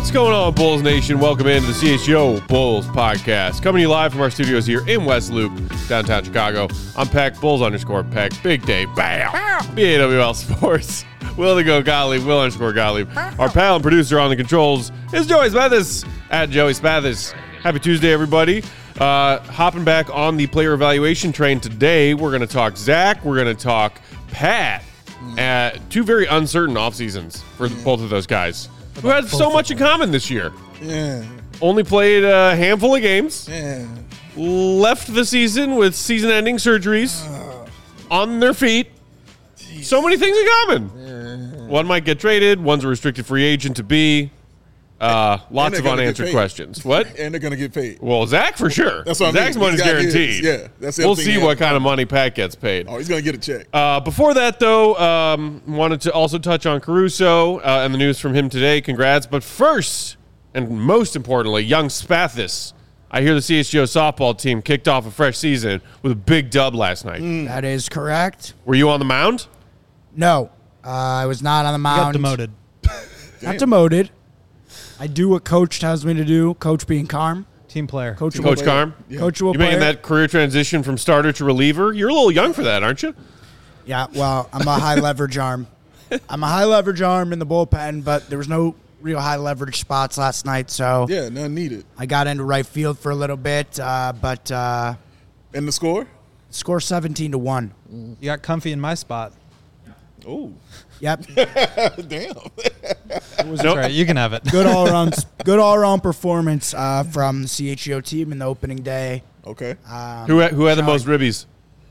What's going on, Bulls Nation? Welcome into the CHGO Bulls podcast. Coming to you live from our studios here in West Loop, downtown Chicago. I'm Peck, Bulls_Peck, Big Day, bam, BAWL Sports. Will the Go Gottlieb, Will_Gottlieb. Our pal and producer on the controls is Joey Spathis, at Joey Spathis. Happy Tuesday, everybody. Hopping back on the player evaluation train today, we're going to talk Zach, we're going to talk Pat. Two very uncertain off seasons for both of those guys who had so much in common this year. Yeah. Only played a handful of games. Yeah. Left the season with season-ending surgeries on their feet. Jeez. So many things in common. One might get traded. One's a restricted free agent to be. Lots of unanswered questions. What? And they're going to get paid. Well, Zach for sure. That's what I mean. Zach's money's guaranteed. Yeah, that's We'll see what kind of money Pat gets paid. Oh, he's going to get a check. Before that, though, wanted to also touch on Caruso and the news from him today. Congrats. But first, and most importantly, young Spathis. I hear the CHGO softball team kicked off a fresh season with a big dub last night. That is correct. Were you on the mound? No, I was not on the mound. Got demoted. Not demoted. I do what Coach tells me to do. Coach being calm. Team player. Coach Carm? Yeah. Coach will You play. making that career transition from starter to reliever? You're a little young for that, aren't you? Yeah, well, I'm a high leverage arm. I'm a high leverage arm in the bullpen, but there was no real high leverage spots last night, so Yeah, none needed. I got into right field for a little bit, but And the score? score 17-1. You got comfy in my spot. Oh, Yep, damn. That's right. You can have it. good all around performance from the CHGO team in the opening day. Okay. Who had the most ribbies?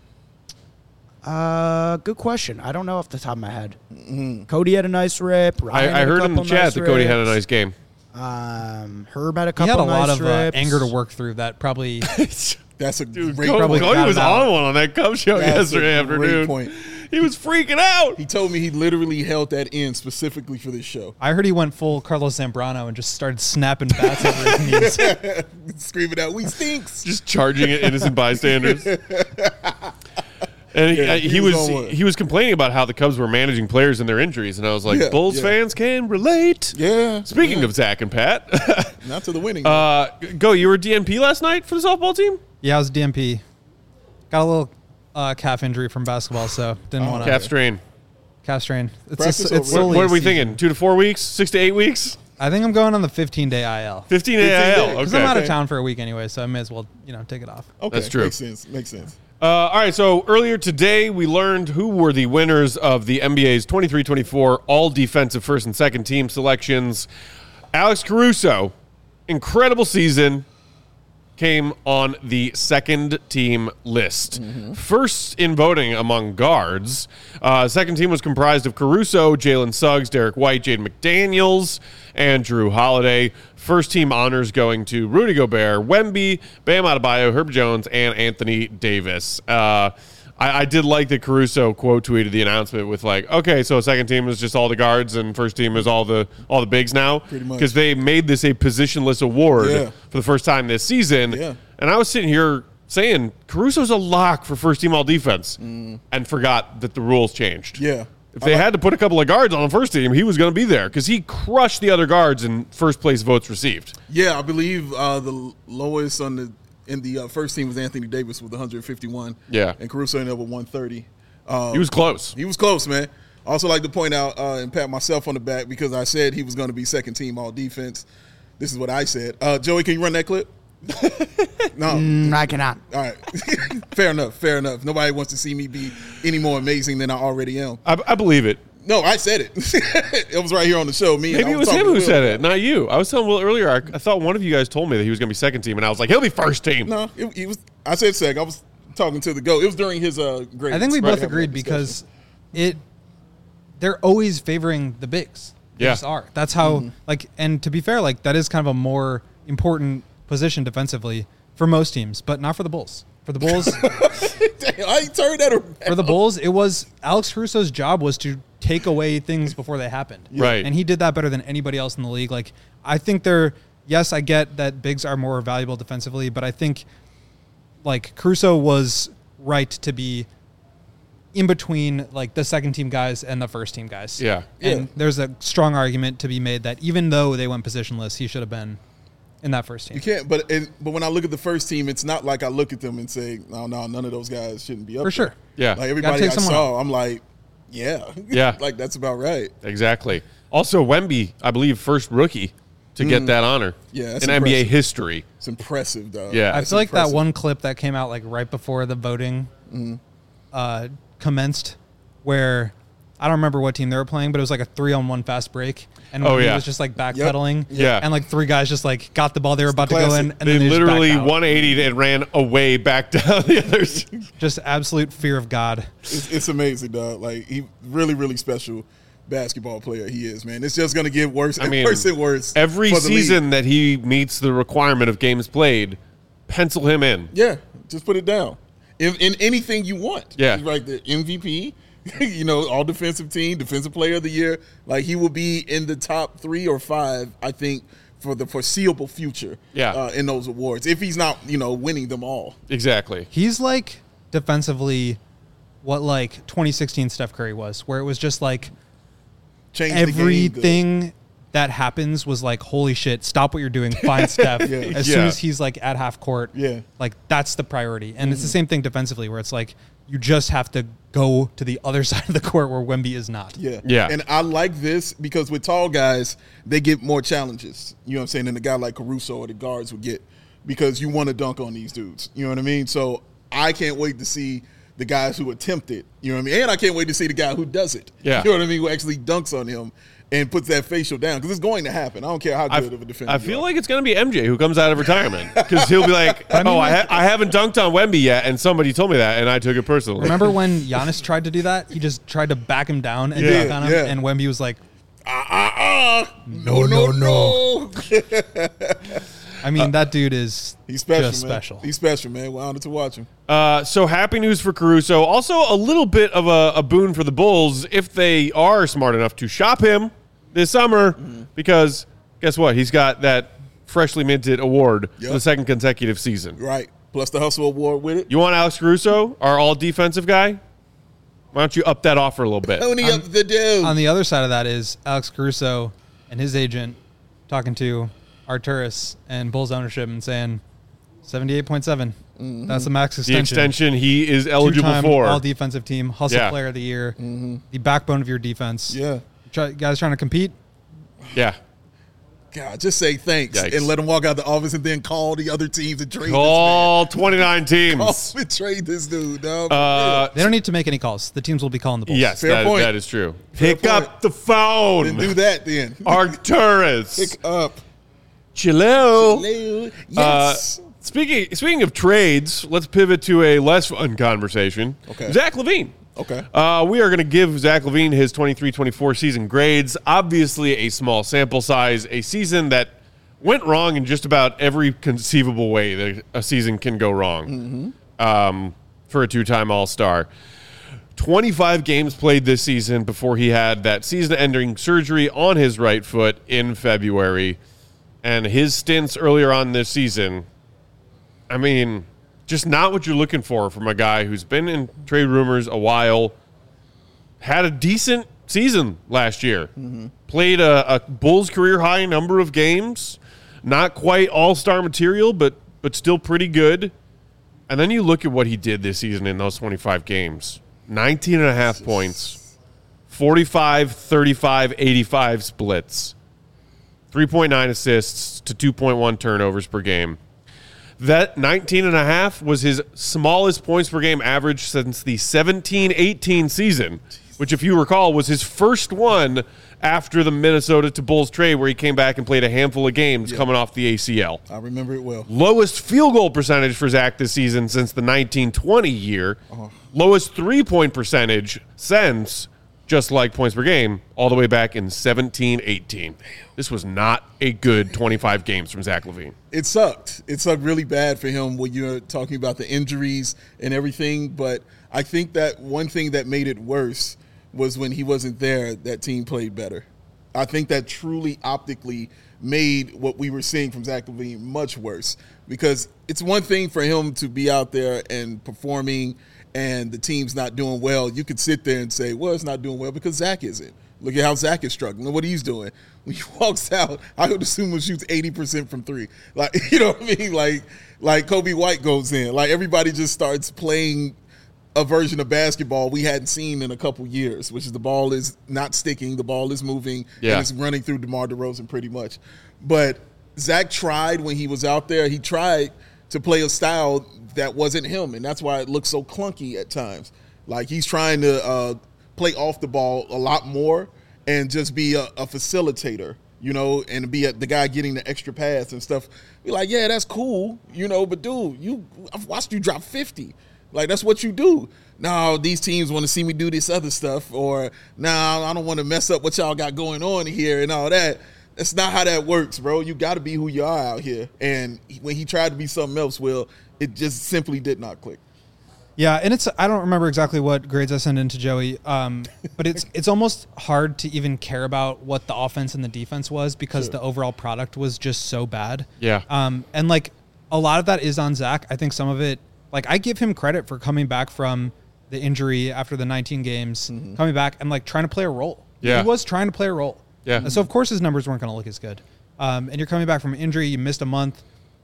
Good question. I don't know off the top of my head. Cody had a nice rip. Ryan I had a heard in the couple chat nice that Cody had a rips. nice game. Herb had a He couple had a nice lot of rips. anger to work through that probably. That's a Dude, great Cody point. was got it on one on that Cubs show That's yesterday a great afternoon. point. He was freaking out. He told me he literally held that in specifically for this show. I heard he went full Carlos Zambrano and just started snapping bats over his knees. Screaming out, "We stinks!" Just charging at innocent bystanders. And Yeah, he was on one. was complaining about how the Cubs were managing players and their injuries, and I was like, Yeah, Bulls yeah. fans can relate. Yeah. Speaking of Zach and Pat, Not to the winning. Go, you were DNP last night for the softball team? Yeah, I was DMP. Got a little calf injury from basketball, so didn't want to. Calf strain. Calf strain. Practice It's over. solely What are we season. thinking? 2 to 4 weeks? 6 to 8 weeks? I think I'm going on the 15-day IL. 15 days. AIL. Because I'm out Okay. of town for a week anyway, so I may as well, take it off. Okay. That's true. Makes sense. Makes sense. All right, so earlier today, we learned who were the winners of the NBA's 23-24 all-defensive first and second team selections. Alex Caruso, incredible season, came on the second team list. First in voting among guards. Second team was comprised of Caruso, Jalen Suggs, Derek White, Jaden McDaniels, and Drew Holiday. First team honors going to Rudy Gobert, Wemby, Bam Adebayo, Herb Jones, and Anthony Davis. I did like that Caruso quote tweeted the announcement with like, okay, so second team is just all the guards and first team is all the bigs now. Pretty much. Because they made this a positionless award Yeah. for the first time this season. Yeah. And I was sitting here saying Caruso's a lock for first team all defense and forgot that the rules changed. Yeah. If they had to put a couple of guards on the first team, he was going to be there because he crushed the other guards in first place votes received. Yeah, I believe the lowest in the first team was Anthony Davis with 151. Yeah. And Caruso ended up with 130. He was close. He was close, man. I also like to point out and pat myself on the back because I said he was going to be second team all defense. This is what I said. Joey, can you run that clip? No. I cannot. All right. Fair enough. Nobody wants to see me be any more amazing than I already am. I believe it. No, I said it. It was right here on the show. Maybe it was him who said it, not you. I was telling Will earlier, I thought one of you guys told me that he was going to be second team, and I was like, he'll be first team. No, he was. I said sec. I was talking to the GOAT. It was during his grades. I think we Right, both having agreed that because discussion. they're always favoring the bigs. They Yeah. just are. That's how and to be fair, that is kind of a more important position defensively for most teams, but not for the Bulls. For the Bulls, Damn, I turned that around. for the Bulls, it was Alex Caruso's job was to take away things before they happened. Right. And he did that better than anybody else in the league. I think yes, I get that bigs are more valuable defensively, but I think Caruso was right to be in between like the second team guys and the first team guys. Yeah. And there's a strong argument to be made that even though they went positionless, he should have been in that first team. You can't, but when I look at the first team, it's not like I look at them and say, no, none of those guys shouldn't be up For sure. there. Yeah. Like everybody I take someone saw, I'm like, yeah. Yeah. Like that's about right. Exactly. Also, Wemby, I believe, first rookie to get that honor Yeah, in that's NBA impressive. history. It's impressive, though. Yeah. I That's feel like impressive. that one clip that came out like right before the voting commenced, where I don't remember what team they were playing, but it was like a 3-on-1 fast break, and Oh, he yeah. was just like backpedaling, Yeah. and like three guys just like got the ball they were about to go classic. in, and They then literally just backed out. 180'd and ran away back down the others. Just absolute fear of God. It's amazing, dog. Like he really, really special basketball player he is, man. It's just gonna get worse and worse and worse. Every for the league. season that he meets the requirement of games played, pencil him in. Yeah, just put it down. In anything you want. Yeah. He's like the MVP, all defensive team, defensive player of the year. Like he will be in the top 3 or 5, I think, for the foreseeable future. Yeah. In those awards, if he's not, winning them all. Exactly. He's like defensively what like 2016 Steph Curry was, where it was just like Change the game. everything that happens was like, holy shit, stop what you're doing, find Steph. As soon Yeah. as he's like at half court, Yeah. like that's the priority. And it's the same thing defensively, where it's like you just have to go to the other side of the court where Wemby is not. Yeah. Yeah. And I like this because with tall guys, they get more challenges. You know what I'm saying? Than a guy like Caruso or the guards would get because you want to dunk on these dudes. You know what I mean? So I can't wait to see the guys who attempt it. You know what I mean? And I can't wait to see the guy who does it. Yeah. You know what I mean? Who actually dunks on him and puts that facial down because it's going to happen. I don't care how good of a defender I you feel are. like it's going to be MJ who comes out of retirement because he'll be like, I haven't dunked on Wemby yet, and somebody told me that, and I took it personally. Remember when Giannis tried to do that? He just tried to back him down and Yeah, dunk on him, yeah. and Wemby was like, No. I mean, that dude is He's special, just man. special. He's special, man. We're honored to watch him. So happy news for Caruso. Also a little bit of a boon for the Bulls if they are smart enough to shop him this summer because guess what? He's got that freshly minted award for the second consecutive season. Right. Plus the Hustle Award with it. You want Alex Caruso, our all-defensive guy? Why don't you up that offer a little bit? Pony up the dude. On the other side of that is Alex Caruso and his agent talking to Arturis and Bulls ownership and saying 78.7. That's the max The extension. extension he is eligible Two-time for. all-defensive team, Hustle Yeah. Player of the Year, the backbone of your defense. Yeah. Guys trying to compete. Yeah. God, just say thanks Yikes. and let him walk out the office and then call the other teams and trade All 29 this man. teams. Call and trade this dude, dog. They don't need to make any calls. The teams will be calling the Bulls. Yes, Fair point. that is true. Fair Pick up point. the phone. Then do that then. Arcturus. Pick up. Chillo. Hello. Yes. Speaking of trades, let's pivot to a less fun conversation. Okay. Zach LaVine. Okay. We are going to give Zach LaVine his 23-24 season grades. Obviously, a small sample size, a season that went wrong in just about every conceivable way that a season can go wrong for a two-time All-Star. 25 games played this season before he had that season-ending surgery on his right foot in February. And his stints earlier on this season, I mean, just not what you're looking for from a guy who's been in trade rumors a while, had a decent season last year, played a Bulls career-high number of games, not quite all-star material, but still pretty good. And then you look at what he did this season in those 25 games. 19.5 points, 45, 35, 85 splits, 3.9 assists to 2.1 turnovers per game. That 19.5 was his smallest points per game average since the 17-18 season, which, if you recall, was his first one after the Minnesota to Bulls trade where he came back and played a handful of games coming off the ACL. I remember it well. Lowest field goal percentage for Zach this season since the 1920 year. Lowest three-point percentage since, just like points per game, all the way back in 17-18. This was not a good 25 games from Zach LaVine. It sucked. It sucked really bad for him when you're talking about the injuries and everything. But I think that one thing that made it worse was when he wasn't there, that team played better. I think that truly optically made what we were seeing from Zach LaVine much worse because it's one thing for him to be out there and performing and the team's not doing well, you could sit there and say, well, it's not doing well because Zach isn't. Look at how Zach is struggling. Look what he's doing. When he walks out, I would assume he shoots 80% from three. Like, you know what I mean? Like Kobe White goes in. Like, everybody just starts playing a version of basketball we hadn't seen in a couple years, which is the ball is not sticking, the ball is moving, and it's running through DeMar DeRozan pretty much. But Zach tried when he was out there. He tried to play a style that wasn't him, and that's why it looks so clunky at times. Like, he's trying to play off the ball a lot more and just be a facilitator, you know, and be the guy getting the extra pass and stuff. Be like, yeah, that's cool, you know, but dude, I've watched you drop 50. Like, that's what you do. No, these teams want to see me do this other stuff, or no, I don't want to mess up what y'all got going on here and all that. That's not how that works, bro. You got to be who you are out here. And when he tried to be something else, Will, it just simply did not click. Yeah, and I don't remember exactly what grades I sent in to Joey, but it's almost hard to even care about what the offense and the defense was because the overall product was just so bad. Yeah. And, like, a lot of that is on Zach. I think some of it, like, I give him credit for coming back from the injury after the 19 games, coming back and, like, trying to play a role. Yeah. He was trying to play a role. Yeah. And so, of course, his numbers weren't going to look as good. And you're coming back from an injury. You missed a month.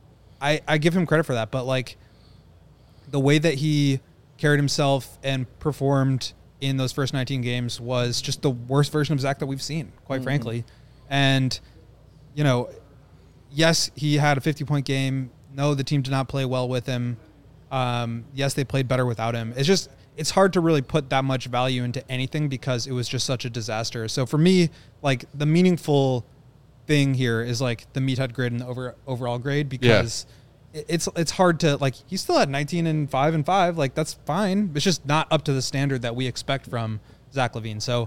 I give him credit for that. But, like, the way that he carried himself and performed in those first 19 games was just the worst version of Zach that we've seen, quite frankly. And, you know, yes, he had a 50-point game. No, the team did not play well with him. Yes, they played better without him. It's hard to really put that much value into anything because it was just such a disaster. So for me, like, the meaningful thing here is, like, the meathead grade and the overall grade because it's hard to, like, he still had 19 and 5 and 5. Like, that's fine. It's just not up to the standard that we expect from Zach LaVine. So,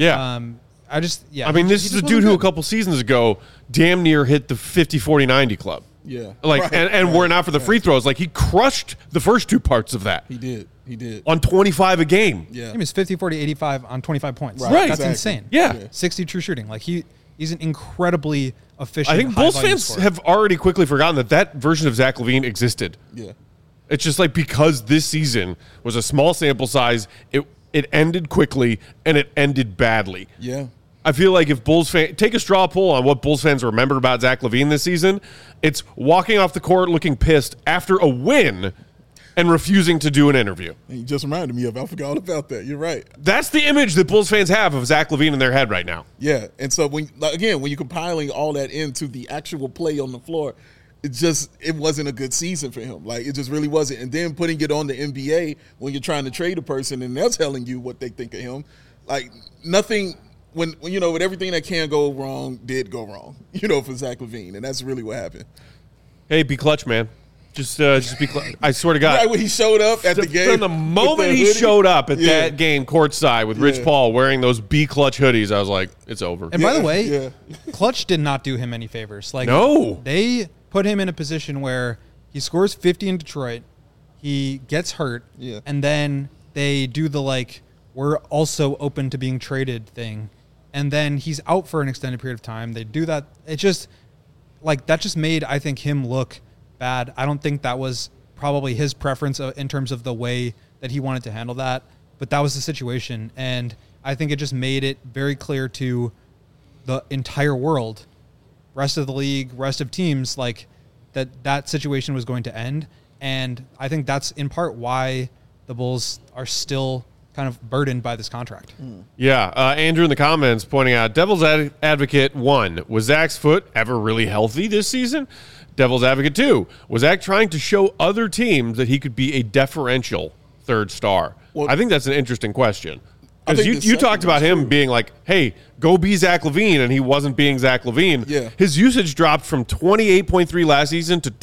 I mean, this is a dude who a couple seasons ago damn near hit the 50-40-90 club. Yeah. Like, and were it not for the free throws, like, he crushed the first two parts of that. He did. On 25 a game. Yeah. He was 50, 40, 85 on 25 points. Right. That's Exactly. insane. Yeah. 60 true shooting. Like, he's an incredibly efficient, I think Bulls high-volume fans scorer. have already quickly forgotten that version of Zach LaVine existed. Yeah. It's just like because this season was a small sample size, it ended quickly and it ended badly. Yeah. I feel like if Bulls fans take a straw poll on what Bulls fans remember about Zach LaVine this season, it's walking off the court looking pissed after a win and refusing to do an interview. And you just reminded me of, I forgot all about that. You're right. That's the image that Bulls fans have of Zach LaVine in their head right now. Yeah. And so when you're compiling all that into the actual play on the floor, it wasn't a good season for him. Like, it just really wasn't. And then putting it on the NBA when you're trying to trade a person and they're telling you what they think of him, like, nothing. When you know, with everything that can go wrong did go wrong, you know, for Zach LaVine, and that's really what happened. Hey, be clutch, man. Just be clutch. I swear to God. Right when he showed up at the game. From the moment he hoodie, showed up at that game courtside with Rich Yeah. Paul wearing those be clutch hoodies, I was like, it's over. And by the way, yeah. Clutch did not do him any favors. Like, No. They put him in a position where he scores 50 in Detroit, he gets hurt, Yeah. and then they do the, like, we're also open to being traded thing. And then he's out for an extended period of time. They do that. It just, like, that just made, I think, him look bad. I don't think that was probably his preference in terms of the way that he wanted to handle that. But that was the situation. And I think it just made it very clear to the entire world, rest of the league, rest of teams, like, that situation was going to end. And I think that's in part why the Bulls are still kind of burdened by this contract. Yeah, Andrew in the comments pointing out, Devil's Advocate 1, was Zach's foot ever really healthy this season? Devil's Advocate 2, was Zach trying to show other teams that he could be a deferential third star? Well, I think that's an interesting question. Because you talked about him being like, hey, go be Zach LaVine, and he wasn't being Zach LaVine. Yeah. His usage dropped from 28.3 last season to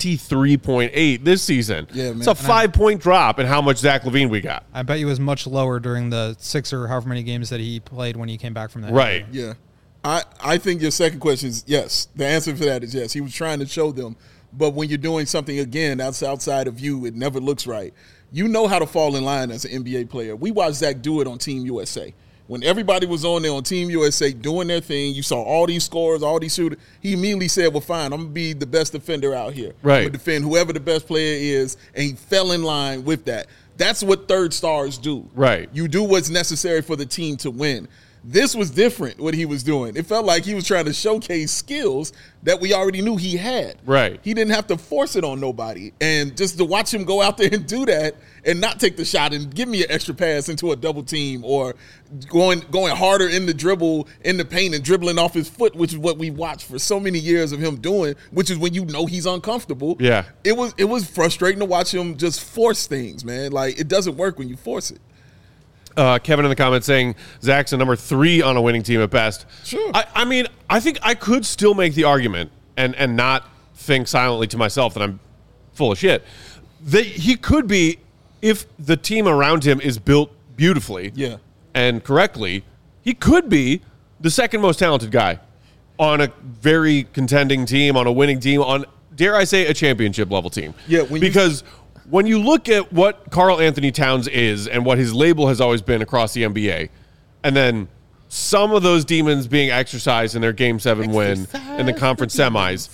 23.8 this season. Yeah, man. It's a 5-point drop in how much Zach LaVine we got. I bet he was much lower during the 6 or however many games that he played when he came back from that. Right. Yeah. I think your second question is yes. The answer for that is yes. He was trying to show them. But when you're doing something, again, that's outside of you, it never looks right. You know how to fall in line as an NBA player. We watched Zach do it on Team USA. When everybody was on there on Team USA doing their thing, you saw all these scores, all these shooters. He immediately said, well, fine, I'm going to be the best defender out here. Right. I'm going to defend whoever the best player is, and he fell in line with that. That's what third stars do. Right. You do what's necessary for the team to win. This was different, what he was doing. It felt like he was trying to showcase skills that we already knew he had. Right. He didn't have to force it on nobody. And just to watch him go out there and do that and not take the shot and give me an extra pass into a double team or going harder in the dribble, in the paint and dribbling off his foot, which is what we watched for so many years of him doing, which is when you know he's uncomfortable. Yeah. It was frustrating to watch him just force things, man. Like, it doesn't work when you force it. Kevin in the comments saying Zach's a number 3 on a winning team at best. Sure. I mean, I think I could still make the argument and not think silently to myself that I'm full of shit. That he could be, if the team around him is built beautifully and correctly, he could be the second most talented guy on a very contending team, on a winning team, on, dare I say, a championship level team. Yeah, because when you look at what Karl Anthony Towns is and what his label has always been across the NBA, and then some of those demons being exercised in their Game 7 win in the conference semis,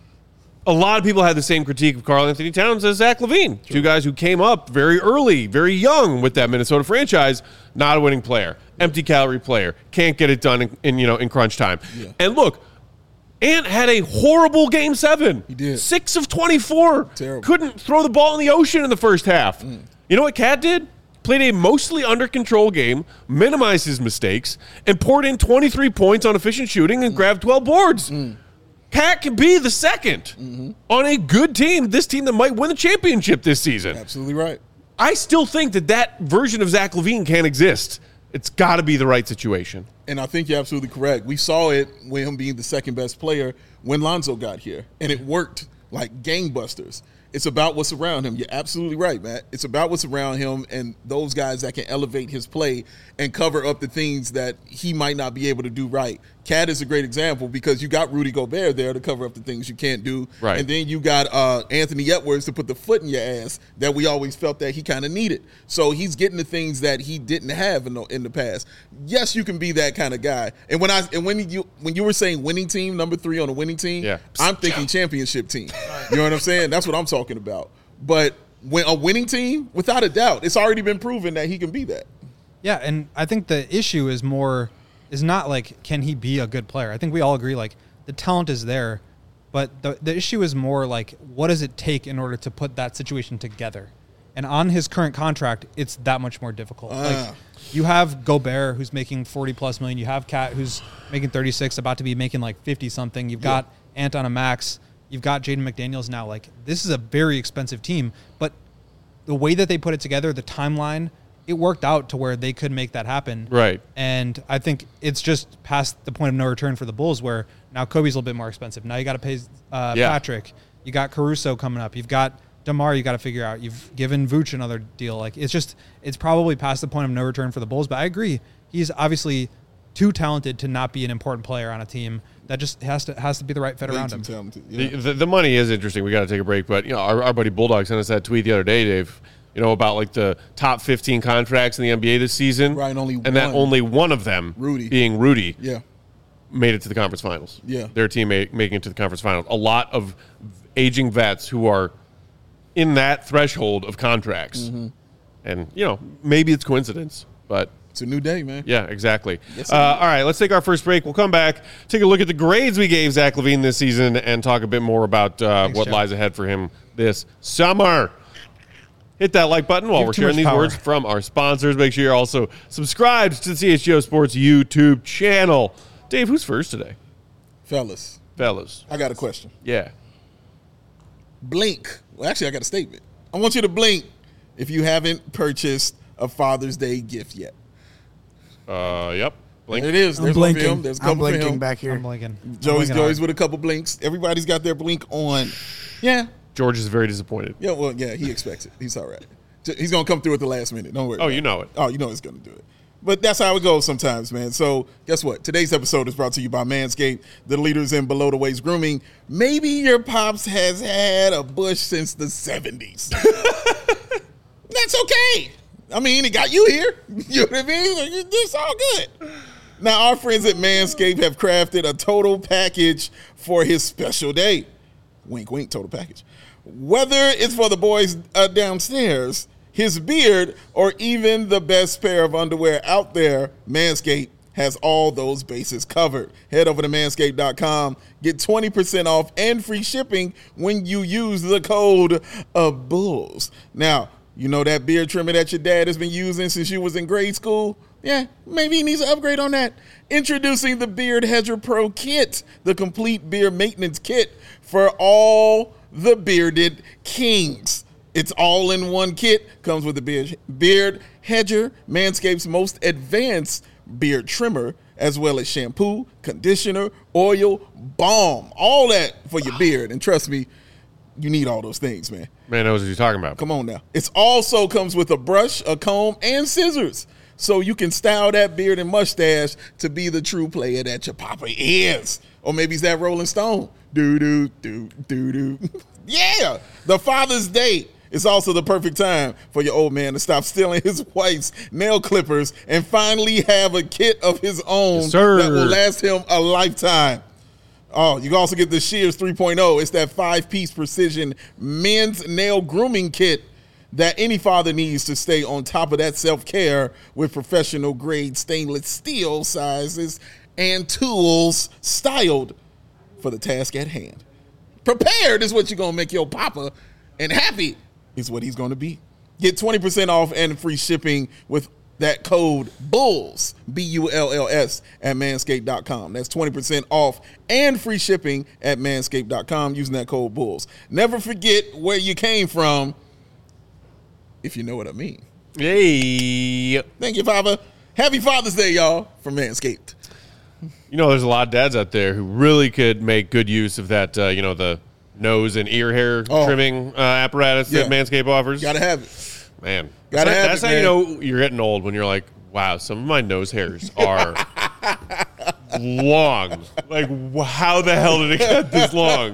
a lot of people had the same critique of Karl Anthony Towns as Zach LaVine. Sure. Two guys who came up very early, very young with that Minnesota franchise, not a winning player, empty calorie player, can't get it done in crunch time. Yeah. And look, Ant had a horrible Game 7. He did. 6 of 24. Terrible. Couldn't throw the ball in the ocean in the first half. You know what Cat did? Played a mostly under control game, minimized his mistakes, and poured in 23 points on efficient shooting and grabbed 12 boards. Cat can be the second on a good team, this team that might win the championship this season. Absolutely right. I still think that version of Zach LaVine can't exist. It's got to be the right situation. And I think you're absolutely correct. We saw it with him being the second best player when Lonzo got here, and it worked like gangbusters. It's about what's around him. You're absolutely right, Matt. It's about what's around him and those guys that can elevate his play and cover up the things that he might not be able to do right. Cat is a great example because you got Rudy Gobert there to cover up the things you can't do. Right. And then you got Anthony Edwards to put the foot in your ass that we always felt that he kind of needed. So he's getting the things that he didn't have in the past. Yes, you can be that kind of guy. And when you were saying winning team, number 3 on a winning team, I'm thinking championship team. You know what I'm saying? That's what I'm talking about. But when a winning team, without a doubt, it's already been proven that he can be that. Yeah, and I think the issue is not like, can he be a good player? I think we all agree, like, the talent is there, but the issue is more like, what does it take in order to put that situation together? And on his current contract, it's that much more difficult. Like, you have Gobert, who's making 40+ million. You have Cat, who's making 36, about to be making like 50-something. You've got Ant on a max. You've got Jaden McDaniels now. Like, this is a very expensive team, but the way that they put it together, the timeline, it worked out to where they could make that happen. Right. And I think it's just past the point of no return for the Bulls, where now Kobe's a little bit more expensive. Now you got to pay Patrick. You got Caruso coming up. You've got DeMar you got to figure out. You've given Vooch another deal. Like, it's probably past the point of no return for the Bulls. But I agree. He's obviously too talented to not be an important player on a team. That just has to be the right fit around him. Talented, yeah. The money is interesting. We got to take a break. But, our buddy Bulldog sent us that tweet the other day, Dave, about like the top 15 contracts in the NBA this season. Right, that only one of them, being Rudy, made it to the conference finals. Yeah. Their team making it to the conference finals. A lot of aging vets who are in that threshold of contracts. And, maybe it's coincidence, but it's a new day, man. Yeah, exactly. Yes, all right, let's take our first break. We'll come back, take a look at the grades we gave Zach LaVine this season, and talk a bit more about what lies ahead for him this summer. Hit that like button while we're sharing these words from our sponsors. Make sure you're also subscribed to the CHGO Sports YouTube channel. Dave, who's first today? Fellas. I got a question. Yeah. Blink. Well, actually, I got a statement. I want you to blink if you haven't purchased a Father's Day gift yet. Yep. Blink. There it is. There's one for him. There's a couple I'm blinking for him. back here. I'm blinking. Joey's with a couple blinks. Everybody's got their blink on. Yeah. George is very disappointed. Yeah, well, he expects it. He's all right. He's going to come through at the last minute. Don't worry. Oh, you know it. Oh, you know he's going to do it. But that's how it goes sometimes, man. So guess what? Today's episode is brought to you by Manscaped, the leaders in below-the-waist grooming. Maybe your pops has had a bush since the 70s. That's okay. I mean, it got you here. You know what I mean? Like, it's all good. Now, our friends at Manscaped have crafted a total package for his special day. Wink, wink, total package. Whether it's for the boys downstairs, his beard, or even the best pair of underwear out there, Manscaped has all those bases covered. Head over to manscaped.com. Get 20% off and free shipping when you use the code BULLS. Now, you know that beard trimmer that your dad has been using since you was in grade school? Yeah, maybe he needs to upgrade on that. Introducing the Beard Hedger Pro Kit, the complete beard maintenance kit for all the bearded kings. It's all in one kit. Comes with the Beard Hedger, Manscaped's most advanced beard trimmer, as well as shampoo, conditioner, oil, balm, all that for your beard. And trust me, you need all those things, man. Man knows what you're talking about. Come on now. It also comes with a brush, a comb, and scissors, so you can style that beard and mustache to be the true player that your papa is. Or maybe he's that Rolling Stone. Do-do-do-do-do. Yeah, the Father's Day is also the perfect time for your old man to stop stealing his wife's nail clippers and finally have a kit of his own that will last him a lifetime. Oh, you can also get the Shears 3.0. It's that 5-piece precision men's nail grooming kit that any father needs to stay on top of that self-care with professional grade stainless steel sizes and tools styled for the task at hand. Prepared is what you're going to make your papa, and happy is what he's going to be. Get 20% off and free shipping with that code BULLS, BULLS, at manscaped.com. That's 20% off and free shipping at manscaped.com using that code BULLS. Never forget where you came from, if you know what I mean. Hey. Thank you, Papa. Happy Father's Day, y'all, from Manscaped. You know, there's a lot of dads out there who really could make good use of that, the nose and ear hair trimming apparatus that Manscaped offers. Gotta have it. Man. That's how you know you're getting old, when you're like, wow, some of my nose hairs are long. Like, how the hell did it get this long?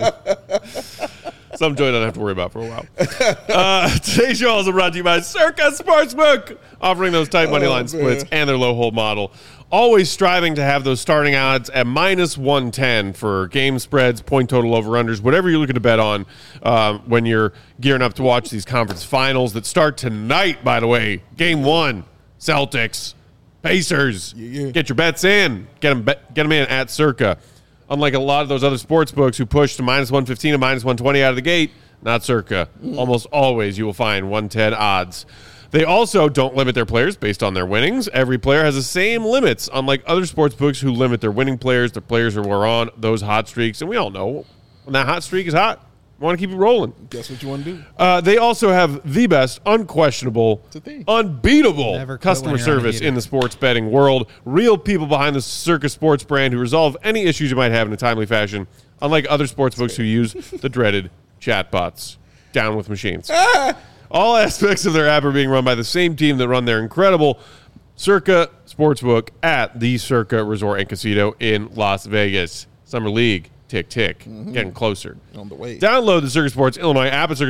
Some joy I don't have to worry about for a while. Today's show also brought to you by Circa Sportsbook, offering those tight money line splits and their low hold model. Always striving to have those starting odds at minus 110 for game spreads, point total over-unders, whatever you're looking to bet on when you're gearing up to watch these conference finals that start tonight, by the way. Game 1, Celtics, Pacers. Yeah. Get your bets in. Get them in at Circa. Unlike a lot of those other sports books who push to minus 115 and minus 120 out of the gate, not Circa. Almost always you will find 110 odds. They also don't limit their players based on their winnings. Every player has the same limits, unlike other sports books who limit their winning players, the players who are on those hot streaks. And we all know when that hot streak is hot, you want to keep it rolling. Guess what you want to do. They also have the best, unquestionable, unbeatable customer service in the sports betting world. Real people behind the Circa Sports brand who resolve any issues you might have in a timely fashion, unlike other sports books who use the dreaded chatbots. Down with machines. All aspects of their app are being run by the same team that run their incredible Circa Sportsbook at the Circa Resort and Casino in Las Vegas. Summer League, tick, tick, getting closer. On the way. Download the Circa Sports Illinois app at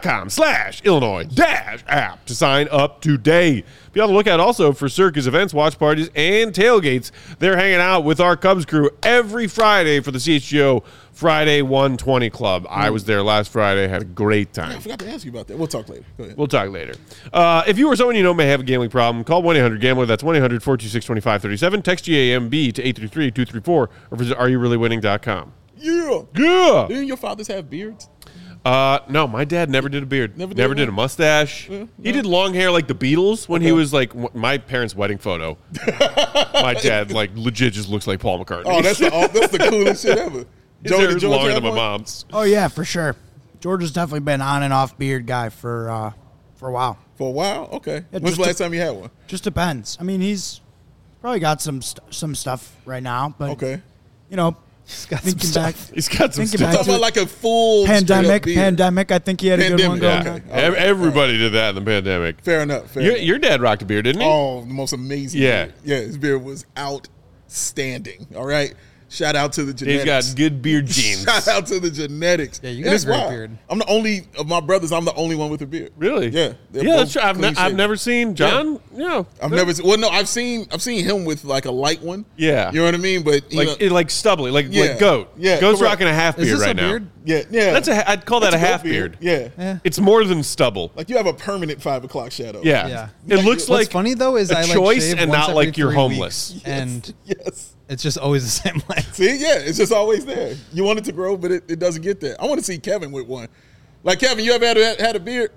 circasports.com/Illinois-app to sign up today. Be on the lookout also for Circa's events, watch parties, and tailgates. They're hanging out with our Cubs crew every Friday for the CHGO Friday 120 Club. I was there last Friday, had a great time. I forgot to ask you about that. We'll talk later. Go ahead. We'll talk later. If you or someone you know may have a gambling problem, call 1-800-GAMBLER. That's 1-800-426-2537. Text GAMB to 833-234 or visit areyourreallywinning.com. Yeah. Yeah. Didn't your fathers have beards? No, my dad never did a beard. Never did a mustache. No. He did long hair like the Beatles when he was like my parents' wedding photo. My dad like legit just looks like Paul McCartney. Oh, that's the coolest shit ever. His hair is longer than my mom's. Oh yeah, for sure. George has definitely been on and off beard guy for a while. For a while, okay. Yeah, when's the last time you had one? Just depends. I mean, he's probably got some stuff right now, but okay, you know, he's got some stuff. He's got some stuff. Talking about like a full pandemic. I think he had a good one going on. Everybody did that in the pandemic. Fair enough. Your dad rocked a beard, didn't he? Oh, the most amazing. Yeah, beard. Yeah. His beard was outstanding. All right. Shout out to the Dave's genetics. got good beard genes. Shout out to the genetics. Yeah, you And got a it's great wild. beard. I'm the only of my brothers. I'm the only one with a beard. Really? Yeah. They're Yeah, both that's true. I've clean-shaven. never seen John. Yeah. I've never. Well, no, I've seen him with like a light one. Yeah. You know what I mean? But you know, Like stubbly, like Yeah. goat. Yeah, Goat's correct. rocking a half Is beard this right a now. beard? yeah. I'd call that That's a goat half beard. Yeah. Yeah. It's more than stubble. Like you have a permanent 5 o'clock shadow. Yeah. Yeah. It looks What's like funny though is a I like choice shave and once not every like you're 3 homeless. weeks, and Yes. it's just always the same length. See, yeah, it's just always there. You want it to grow, but it doesn't get there. I want to see Kevin with one. Like Kevin, you ever had a beard?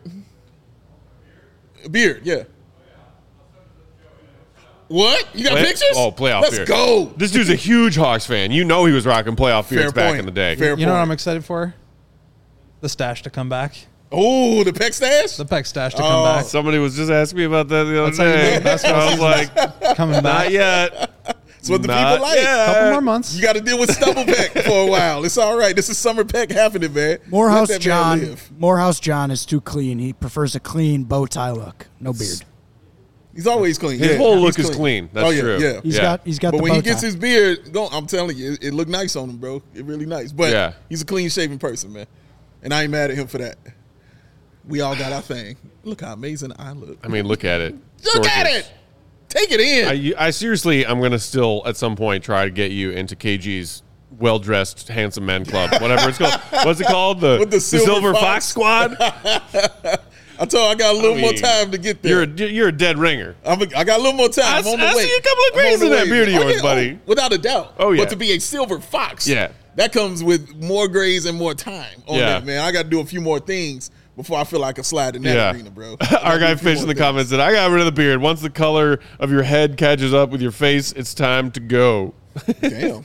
A beard, yeah. What? You got pictures? Oh, playoff Let's beard. go. This dude's a huge Hawks fan. You know he was rocking playoff beards Fair back point. in the day. Fair You know what point. I'm excited for? The stash to come back. Oh, the peck stash? The Peck stash to Oh. come back. Somebody was just asking me about that the other That's how you day. know the basketball I was like, Coming not back. yet. That's what the Not people like. yet. Couple more months. You got to deal with stubble peck for a while. It's all right. This is summer peck happening, man. Morehouse Let that man John. live. Morehouse John is too clean. He prefers a clean bow tie look. No beard. He's always clean. His Yeah, whole he's look is clean. That's oh, yeah, true. Yeah. He's Yeah. got But the when bow he gets tie. his beard, I'm telling you, it look nice on him, bro. It really nice. But Yeah. he's a clean shaven person, man. And I ain't mad at him for that. We all got our thing. Look how amazing I look. I mean, look at it. Look at Gorgeous. it. Take it in. I seriously, I'm going to still at some point try to get you into KG's well-dressed handsome men club, whatever it's called. What's it called? With the Silver Silver Fox Fox. Squad. I told you I got a little I more mean, time to get there. You're a dead ringer. I got a little more time. I'm on the I way. see a couple of I'm on grays the in that way. beard of yours, yeah, buddy. without a doubt. Oh, yeah. But to be a silver fox, Yeah. that comes with more grays and more time on Yeah. that, man. I got to do a few more things before I feel like I slide in that Yeah. arena, bro. Our guy Fish in the comments said, I got rid of the beard. Once the color of your head catches up with your face, it's time to go. Damn.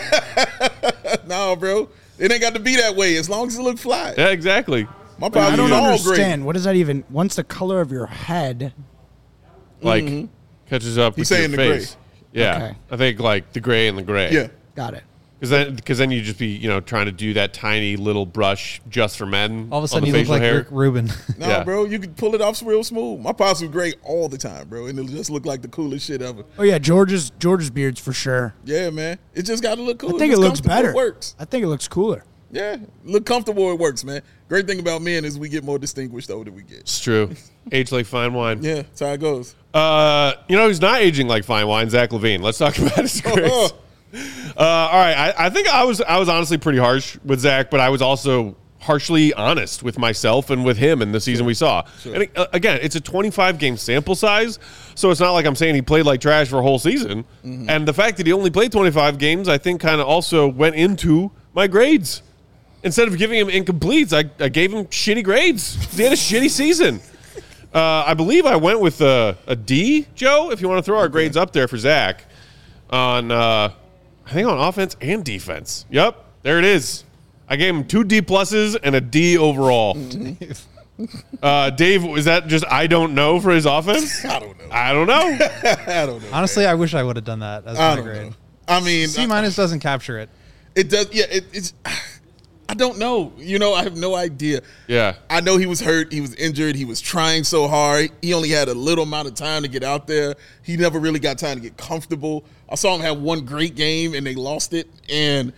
No, bro. It ain't got to be that way as long as it look fly. Yeah, exactly. My I pops don't is all understand. gray. What does that even? Once the color of your head. Like, catches up He's with saying your the gray. face. Yeah. Okay. I think like the gray and the gray. Yeah. Got it. Because then you just be, trying to do that tiny little brush just for men. All of a on sudden, the you look facial like hair. Rick Rubin. No, Yeah. bro, you can pull it off real smooth. My pops was gray all the time, bro, and it'll just look like the coolest shit ever. Oh yeah, George's beard's for sure. Yeah, man. It just got to look cool. I think If it it's looks comfortable, better. It works. I think it looks cooler. Yeah, look comfortable. It works, man. Great thing about men is we get more distinguished the older we get. It's true. Age like fine wine. Yeah, that's how it goes. He's not aging like fine wine. Zach LaVine. Let's talk about his grace. All right. I think I was honestly pretty harsh with Zach, but I was also harshly honest with myself and with him in the season we saw. And again, it's a 25-game sample size, so it's not like I'm saying he played like trash for a whole season. And the fact that he only played 25 games, I think, kind of also went into my grades. Instead of giving him incompletes, I gave him shitty grades. He had a shitty season. I believe I went with a D, Joe, if you want to throw our grades up there for Zach, on I think on offense and defense. Yep, there it is. I gave him 2 D pluses and a D overall. Dave, is that just I don't know for his offense? I don't know. I don't know. I don't know. Honestly, I wish I would have done that as I my don't grade. know. I mean, C minus doesn't capture it. it does. Yeah, it's. I don't know. I have no idea. Yeah. I know he was hurt. He was injured. He was trying so hard. He only had a little amount of time to get out there. He never really got time to get comfortable. I saw him have one great game and they lost it. And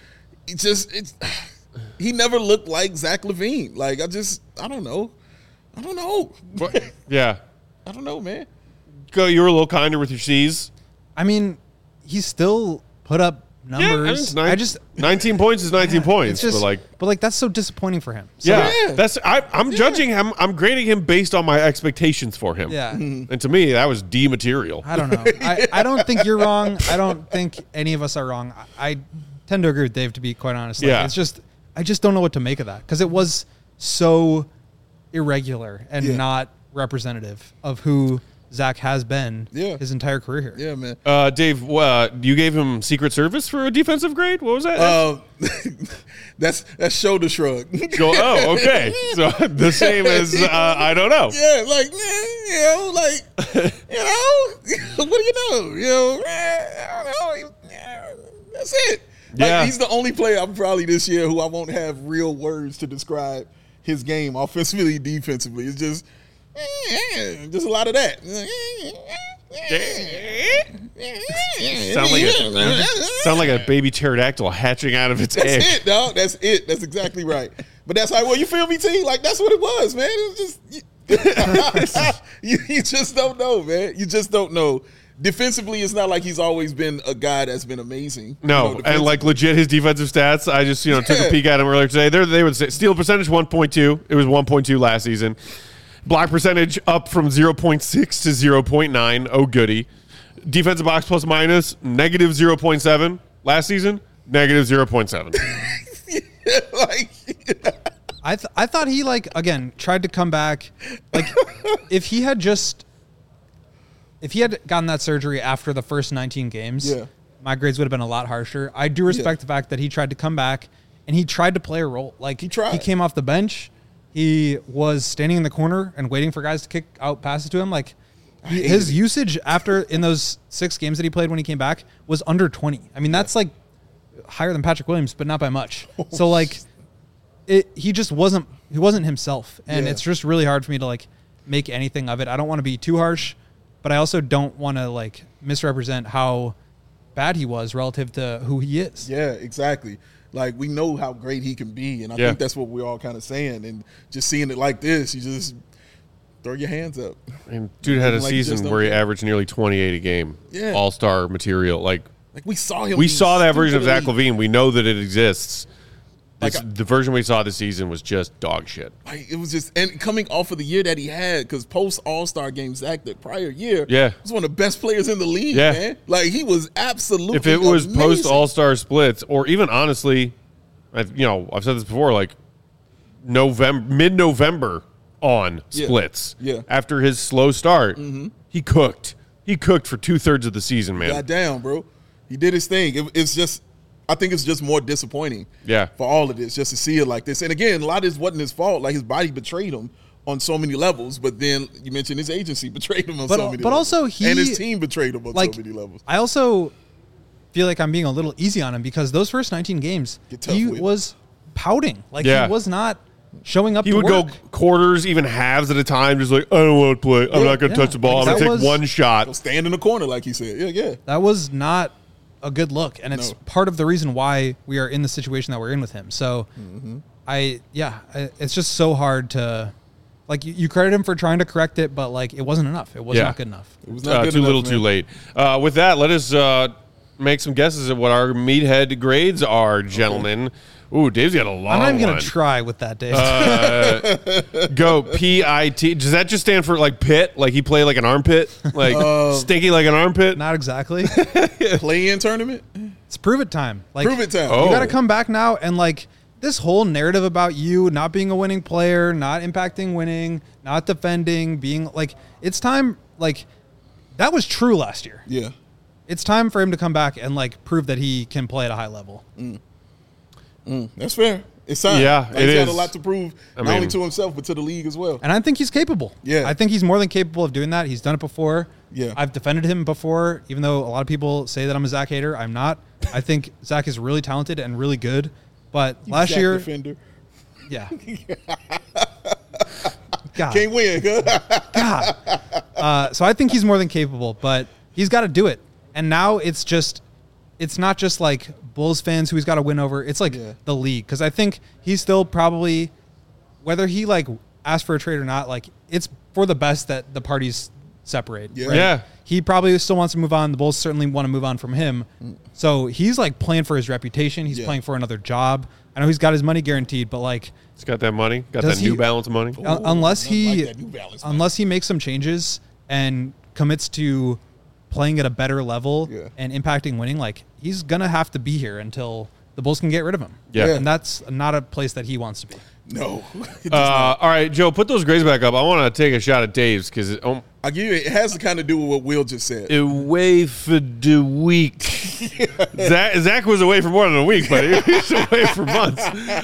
he never looked like Zach LaVine. Like, I don't know. I don't know. Yeah. I don't know, man. Go. You were a little kinder with your C's. I mean, he still put up numbers. I just 19 points is 19 points. It's just, but like, that's so disappointing for him. So, yeah, I'm judging him. I'm grading him based on my expectations for him. Yeah. And to me, that was D material. I don't know. I don't think you're wrong. I don't think any of us are wrong. I tend to agree with Dave, to be quite honest. Like, Yeah. it's just, I just don't know what to make of that because it was so irregular and not representative of who Zach has been his entire career here. Yeah, man. Dave, you gave him Secret Service for a defensive grade? What was that? That's shoulder shrug. Oh, okay. So the same as I don't know. Yeah, like, what do you know? I don't know. That's it. Yeah. Like, he's the only player I'm probably this year who I won't have real words to describe his game offensively, defensively. It's just a lot of that. Sound like a baby pterodactyl hatching out of its That's egg. it, dog. That's it. That's exactly right. But that's how, well, you feel me, T? Like, that's what it was, man. It was just, you just don't know, man. You just don't know. Defensively, it's not like he's always been a guy that's been amazing. No, and like legit his defensive stats, I just took a peek at him earlier today. They would say steal percentage 1.2. It was 1.2 last season. Block percentage up from 0.6 to 0.9. Oh, goody. Defensive box plus minus negative 0.7 last season. Negative 0.7. I thought he again tried to come back. Like if he had gotten that surgery after the first 19 games, my grades would have been a lot harsher. I do respect the fact that he tried to come back and he tried to play a role. Like he came off the bench. He was standing in the corner and waiting for guys to kick out passes to him. Like his usage in those 6 games that he played when he came back was under 20. I mean, that's like higher than Patrick Williams, but not by much. So like he just wasn't himself. And it's just really hard for me to like make anything of it. I don't want to be too harsh, but I also don't want to like misrepresent how bad he was relative to who he is. Yeah, exactly. Like, we know how great he can be, and I think that's what we're all kind of saying. And just seeing it like this, you just throw your hands up. And dude had a season where he averaged nearly 28 a game. Yeah. All-star material. Like we saw him. We saw that version of Zach LaVine. We know that it exists. The version we saw this season was just dog shit. Like, it was just, and coming off of the year that he had, because post All-Star game, Zach, the prior year, was one of the best players in the league, man. Like, he was absolutely If it was amazing. post All-Star splits, or even honestly, I've said this before, like mid-November on splits. Yeah. After his slow start, he cooked. He cooked for 2/3 of the season, man. Goddamn, bro. He did his thing. It's just, I think it's just more disappointing for all of this, just to see it like this. And again, a lot of this wasn't his fault. Like, his body betrayed him on so many levels, but then you mentioned his agency betrayed him on so many levels. But also and his team betrayed him on so many levels. I also feel like I'm being a little easy on him because those first 19 games, he was pouting. Like, he was not showing up. He would go quarters, even halves at a time, just like, I don't want to play. I'm not going to touch the ball. I'm going to take one shot. Go stand in the corner, like he said. Yeah. That was not a good look, and it's part of the reason why we are in the situation that we're in with him. So it's just so hard to, like, you credit him for trying to correct it, but like, it wasn't enough. It was not good enough. It was not good too enough, little, man. too late. With that, let us make some guesses at what our meathead grades are, gentlemen. Okay. Ooh, Dave's got a long one. I'm not even going to try with that, Dave. Go PIT. Does that just stand for like pit? Like he played like an armpit? Like stinky like an armpit? Not exactly. Play-in tournament? It's prove it time. Like, prove it time. You got to come back now, and like this whole narrative about you not being a winning player, not impacting winning, not defending, being like, it's time. Like, that was true last year. Yeah. It's time for him to come back and like prove that he can play at a high level. That's fair. It's time. Yeah, like, he's got a lot to prove, not only to himself, but to the league as well. And I think he's capable. Yeah. I think he's more than capable of doing that. He's done it before. Yeah. I've defended him before, even though a lot of people say that I'm a Zach hater. I'm not. I think Zach is really talented and really good. But last year. Defender. Yeah. God. Can't win. God. So I think he's more than capable, but he's got to do it. And now it's not just like Bulls fans who he's got to win over. It's like the league. Because I think he's still probably, whether he like asked for a trade or not, like it's for the best that the parties separate. Yeah. Right? Yeah. He probably still wants to move on. The Bulls certainly want to move on from him. So he's like playing for his reputation. He's playing for another job. I know he's got his money guaranteed, but like he's got that money, got that New Balance money. Unless he makes some changes and commits to playing at a better level and impacting winning, like he's gonna have to be here until the Bulls can get rid of him. Yeah. And that's not a place that he wants to be. No. All right, Joe, put those grades back up. I want to take a shot at Dave's because I'll give you, it has to kind of do with what Will just said. Away for the week. Zach was away for more than a week, but he was away for months.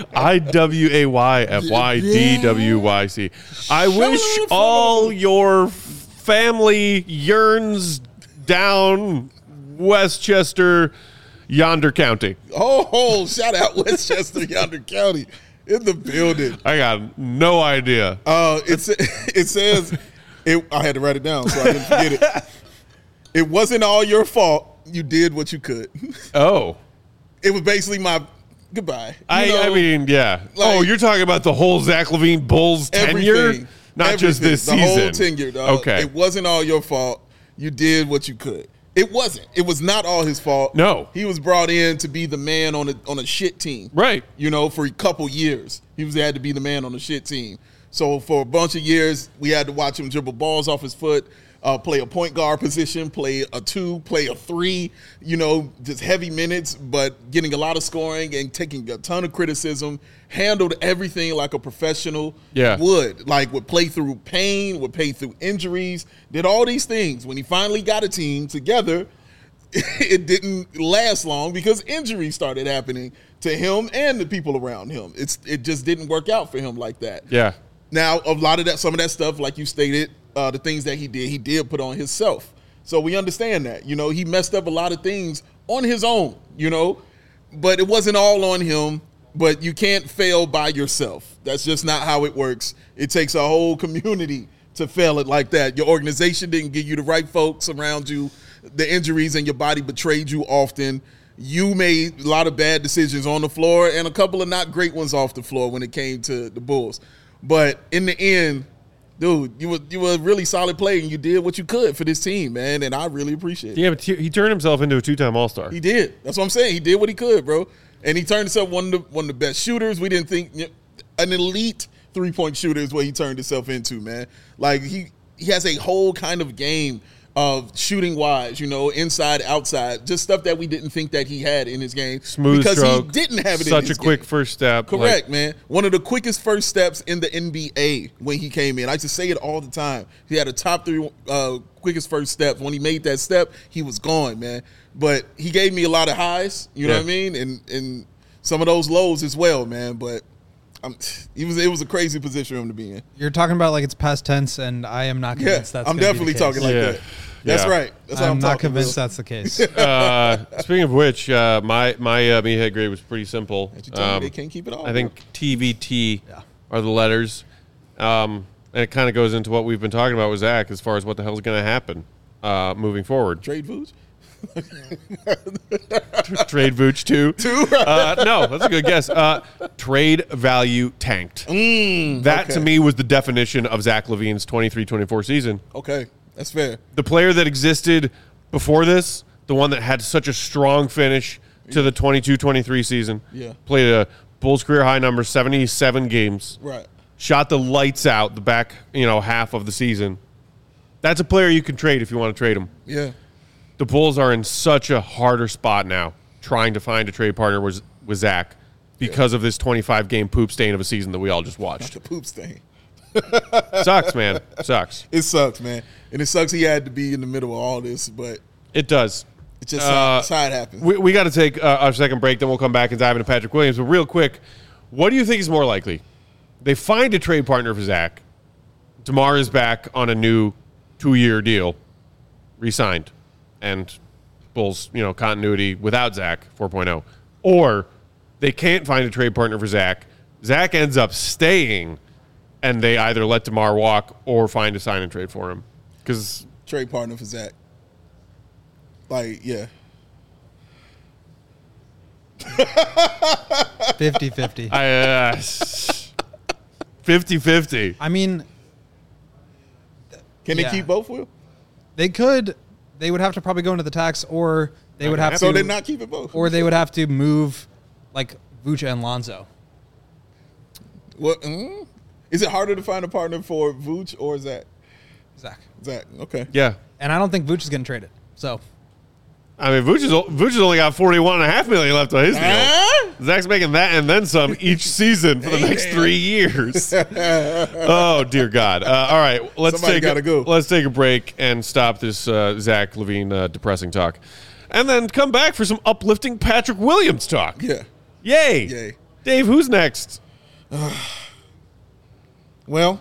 IWAYFYDWYC. I wish all your family yearns down Westchester, Yonder County. Oh, shout out Westchester, Yonder County. In the building. I got no idea. It says, I had to write it down so I didn't forget it. It wasn't all your fault. You did what you could. Oh. It was basically my goodbye. I mean, yeah. like- You're talking about the whole Zach LaVine Bulls tenure? Everything. Not just this season. The whole tenure, dog. Okay. It wasn't all your fault. You did what you could. It wasn't. It was not all his fault. No. He was brought in to be the man on a shit team. Right. For a couple years. He had to be the man on the shit team. So for a bunch of years, we had to watch him dribble balls off his foot, play a point guard position, play a 2, play a 3, just heavy minutes, but getting a lot of scoring and taking a ton of criticism, handled everything like a professional would play through pain, would play through injuries, did all these things. When he finally got a team together, it didn't last long because injuries started happening to him and the people around him. It just didn't work out for him like that. Yeah. Now, some of that stuff, like you stated, the things that he did put on himself. So we understand that. He messed up a lot of things on his own, but it wasn't all on him. But you can't fail by yourself. That's just not how it works. It takes a whole community to fail it like that. Your organization didn't give you the right folks around you. The injuries in your body betrayed you often. You made a lot of bad decisions on the floor and a couple of not great ones off the floor when it came to the Bulls. But in the end, dude, you were a really solid player and you did what you could for this team, man, and I really appreciate it. Yeah, but he turned himself into a 2-time All-Star. He did. That's what I'm saying. He did what he could, bro. And he turned himself one of the best shooters. We didn't think an elite 3-point shooter is what he turned himself into, man. Like he has a whole kind of game of shooting wise, inside, outside, just stuff that we didn't think that he had in his game. Smooth because stroke. He didn't have it in his Such game. a quick first step. Correct, man. One of the quickest first steps in the NBA when he came in. I just say it all the time. He had a top 3 quickest first steps. When he made that step, he was gone, man. But he gave me a lot of highs, you know what I mean? And some of those lows as well, man. But it was a crazy position for him to be in. You're talking about like it's past tense, and I am not convinced that's I'm gonna definitely be the case. talking like that. That's right. That's how I'm not talking, convinced bro. that's the case. Speaking of which, my meathead grade was pretty simple. You tell me they can't keep it all. I think TVT are the letters. And it kind of goes into what we've been talking about with Zach as far as what the hell is going to happen moving forward. Trade Vooch? Trade Vooch too. No, that's a good guess. Trade value tanked. That to me was the definition of Zach LaVine's 23-24 season. Okay, that's fair. The player that existed before this, the one that had such a strong finish to the 22-23 season, played a Bulls career high number, 77 games. Right. Shot the lights out the back, half of the season. That's a player you can trade if you want to trade him. Yeah. The Bulls are in such a harder spot now trying to find a trade partner with Zach because of this 25-game poop stain of a season that we all just watched. The poop stain. Sucks, man. Sucks. It sucks, man. And it sucks he had to be in the middle of all this, but It does. it's just how it happens. We got to take our second break, then we'll come back and dive into Patrick Williams. But real quick, what do you think is more likely? They find a trade partner for Zach. DeMar is back on a new 2-year deal, re-signed, and Bulls, continuity without Zach 4.0. Or they can't find a trade partner for Zach. Zach ends up staying, and they either let DeMar walk or find a sign and trade for him. Because Trade partner for Zach. Like, yeah. 50-50. 50-50. I mean, Can they keep both of them? they could. They would have to probably go into the tax, or they would have to. So they're not keeping both. Or they would have to move, like Vooch and Lonzo. What? Is it harder to find a partner for Vooch or Zach? Zach. Zach. Okay. Yeah. And I don't think Vooch is getting traded. So I mean, Vooch has only got $41.5 million left on his deal. Zach's making that and then some each season for the next 3 years. Oh dear God! All right, let's take a break and stop this Zach LaVine depressing talk, and then come back for some uplifting Patrick Williams talk. Yeah. Yay! Dave, who's next? Well,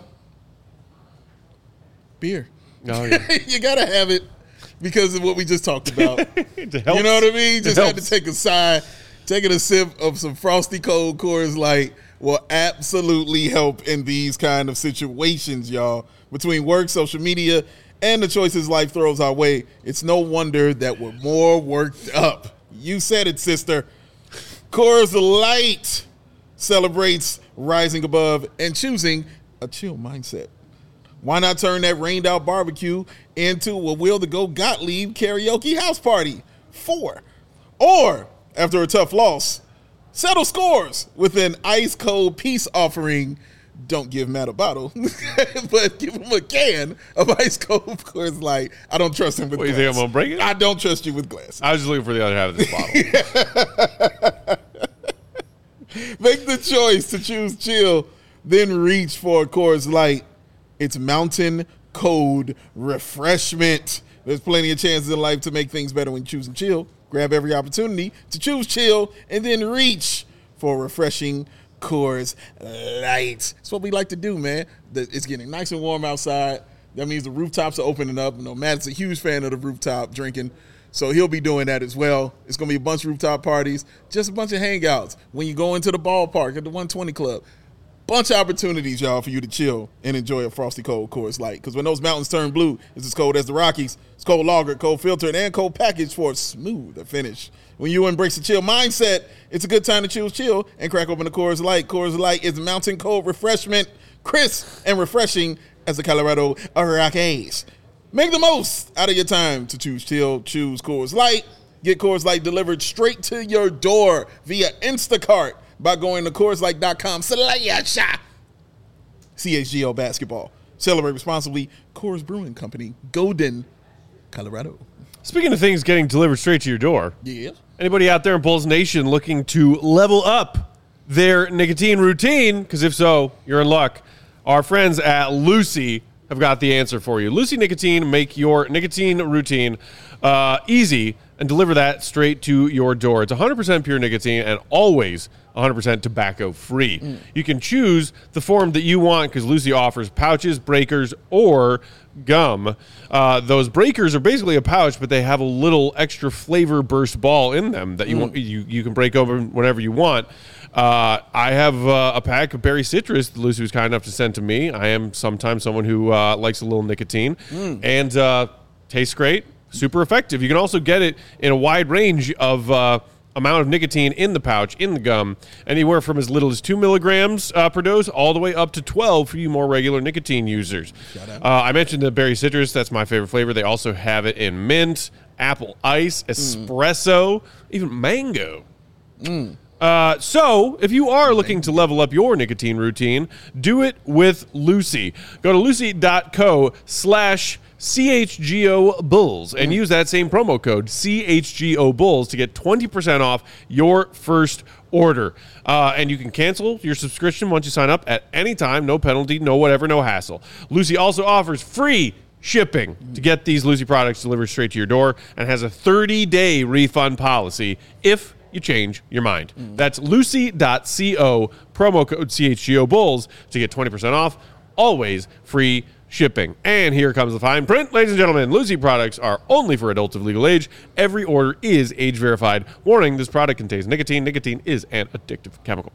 beer. Oh, yeah. You gotta have it because of what we just talked about. It helps. You know what I mean? Just It had to helps. take a sip of some frosty cold Coors Light will absolutely help in these kind of situations, y'all. Between work, social media, and the choices life throws our way, it's no wonder that we're more worked up. You said it, sister. Coors Light celebrates rising above and choosing a chill mindset. Why not turn that rained out barbecue into a Will to Go Gottlieb karaoke house party? 4. Or, after a tough loss, settle scores with an ice cold peace offering. Don't give Matt a bottle, but give him a can of ice cold Coors Light. I don't trust him with glass. You think I'm going to break it? I don't trust you with glass. I was just looking for the other half of this bottle. Make the choice to choose chill, then reach for a Coors Light. It's mountain cold refreshment. There's plenty of chances in life to make things better when choosing chill. Grab every opportunity to choose chill and then reach for refreshing Coors Light. That's what we like to do, man. It's getting nice and warm outside. That means the rooftops are opening up. You know, Matt's a huge fan of the rooftop drinking, so he'll be doing that as well. It's going to be a bunch of rooftop parties, just a bunch of hangouts. When you go into the ballpark at the 120 Club, bunch of opportunities, y'all, for you to chill and enjoy a frosty cold Coors Light. Because when those mountains turn blue, it's as cold as the Rockies. It's cold lagered, cold filtered, and cold packaged for a smoother finish. When you embrace the chill mindset, it's a good time to choose chill and crack open the Coors Light. Coors Light is mountain cold refreshment, crisp and refreshing as the Colorado Rockies. Make the most out of your time to choose chill. Choose Coors Light. Get Coors Light delivered straight to your door via Instacart by going to CHGO Basketball. Celebrate responsibly. Coors Brewing Company, Golden, Colorado. Speaking of things getting delivered straight to your door, Yeah. anybody out there in Bulls Nation looking to level up their nicotine routine? Because if so, you're in luck. Our friends at Lucy have got the answer for you. Lucy Nicotine make your nicotine routine easy and deliver that straight to your door. It's 100% pure nicotine and always 100% tobacco free. You can choose the form that you want because Lucy offers pouches, breakers, or gum. Those breakers are basically a pouch, but they have a little extra flavor burst ball in them that you can break open whenever you want. I have a pack of berry citrus that Lucy was kind enough to send to me. I am sometimes someone who likes a little nicotine, and tastes great, super effective. You can also get it in a wide range of amount of nicotine in the pouch, in the gum, anywhere from as little as 2 milligrams per dose all the way up to 12 for you more regular nicotine users. I mentioned the berry citrus. That's my favorite flavor. They also have it in mint, apple ice, espresso, even mango. So, if you are looking to level up your nicotine routine, do it with Lucy. Go to lucy.co/CHGO Bulls and use that same promo code CHGO Bulls to get 20% off your first order. And you can cancel your subscription once you sign up at any time. No penalty, no whatever, no hassle. Lucy also offers free shipping to get these Lucy products delivered straight to your door and has a 30-day refund policy if you change your mind. That's lucy.co, promo code CHGO Bulls to get 20% off, always free shipping. And here comes the fine print. Ladies and gentlemen, Lucy products are only for adults of legal age. Every order is age verified. Warning, this product contains nicotine. Nicotine is an addictive chemical.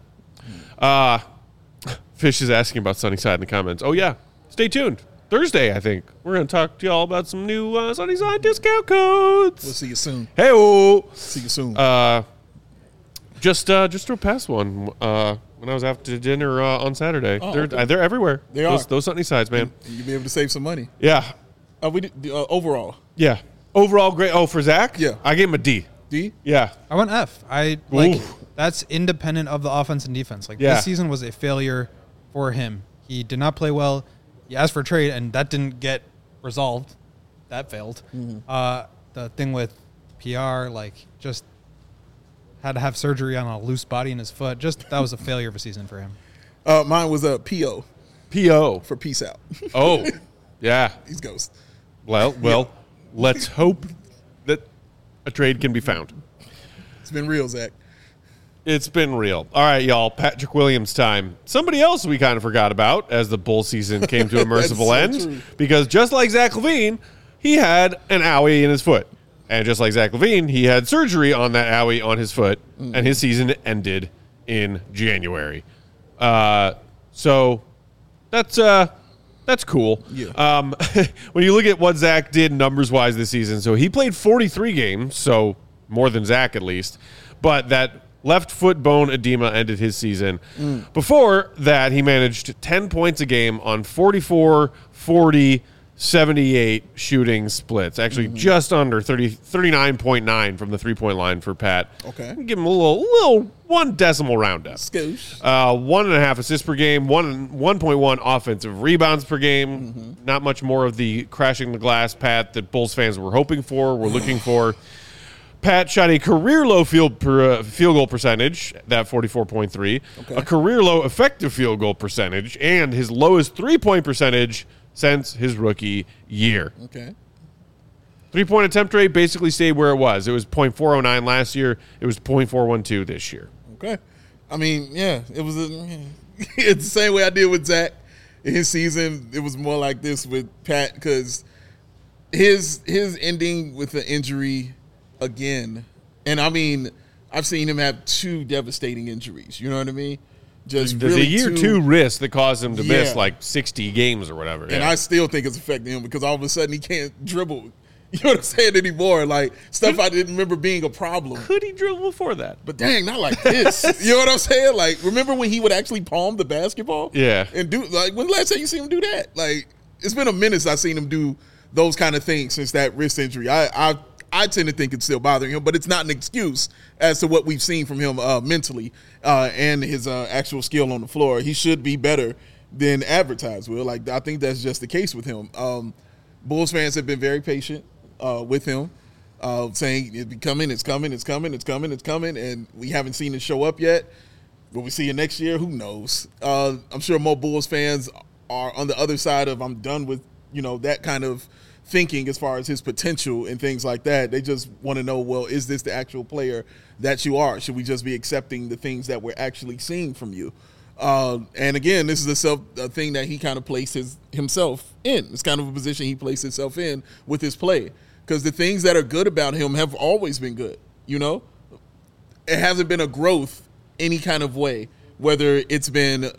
Fish is asking about Sunnyside in the comments. Oh, yeah. Stay tuned. Thursday, I think. We're going to talk to y'all about some new Sunnyside discount codes. We'll see you soon. Hey-o. See you soon. Just throw past one when I was out to dinner on Saturday. They're everywhere. They are. Those Sunnysides, man. You'll be able to save some money. Yeah. Overall. Yeah. Overall, great. Oh, for Zach? Yeah. I gave him a D. D? Yeah. I went F. That's independent of the offense and defense. This season was a failure for him. He did not play well. He asked for a trade, and that didn't get resolved. That failed. The thing with PR, just had to have surgery on a loose body in his foot. That was a failure of a season for him. Mine was a PO. PO. For peace out. Oh, yeah. He's ghost. Well, let's hope that a trade can be found. It's been real, Zach. It's been real. All right, y'all. Patrick Williams time. Somebody else we kind of forgot about as the bull season came to a merciful end. True. Because just like Zach LaVine, he had an owie in his foot. And just like Zach LaVine, he had surgery on that owie on his foot, and his season ended in January. So that's cool. Yeah. When you look at what Zach did numbers-wise this season, so he played 43 games, so more than Zach at least, but that left foot bone edema ended his season. Before that, he managed 10 points a game on 44, 40, 78 shooting splits. Actually, just under 39.9 from the three-point line for Pat. Okay. Give him a little 1 decimal roundup. Scoosh. 1.5 assists per game, 1.1 offensive rebounds per game. Not much more of the crashing the glass Pat that Bulls fans were hoping for, were looking for. Pat shot a career-low field goal percentage, that 44.3, a career-low effective field goal percentage, and his lowest three-point percentage since his rookie year. Okay. Three-point attempt rate basically stayed where it was. It was .409 last year. It was .412 this year. Okay. I mean, yeah, it was it's the same way I did with Zach in his season. It was more like this with Pat because his ending with the injury again, and I mean, I've seen him have 2 devastating injuries. You know what I mean? Just There's really a year 2 wrist that caused him to miss Yeah. like 60 games or whatever. And I still think it's affecting him because all of a sudden he can't dribble. You know what I'm saying anymore? Like stuff I didn't remember being a problem. could he dribble before that? But dang, not like this. You know what I'm saying? Like, remember when he would actually palm the basketball? Yeah. And do like when the last time you seen him do that? Like, it's been a minute since I've seen him do those kind of things since that wrist injury. I tend to think it's still bothering him, but it's not an excuse as to what we've seen from him mentally and his actual skill on the floor. He should be better than advertised, Will. Like, I think that's just the case with him. Bulls fans have been very patient with him, saying it's coming, it's coming, it's coming, it's coming, it's coming, and we haven't seen it show up yet. Will we see it next year? Who knows? I'm sure more Bulls fans are on the other side of I'm done with, that kind of thinking as far as his potential and things like that. They just want to know, well, is this the actual player that you are? Should we just be accepting the things that we're actually seeing from you? And again, this is a thing that he kind of places himself in. It's kind of a position he placed himself in with his play. Because the things that are good about him have always been good, It hasn't been a growth any kind of way, whether it's been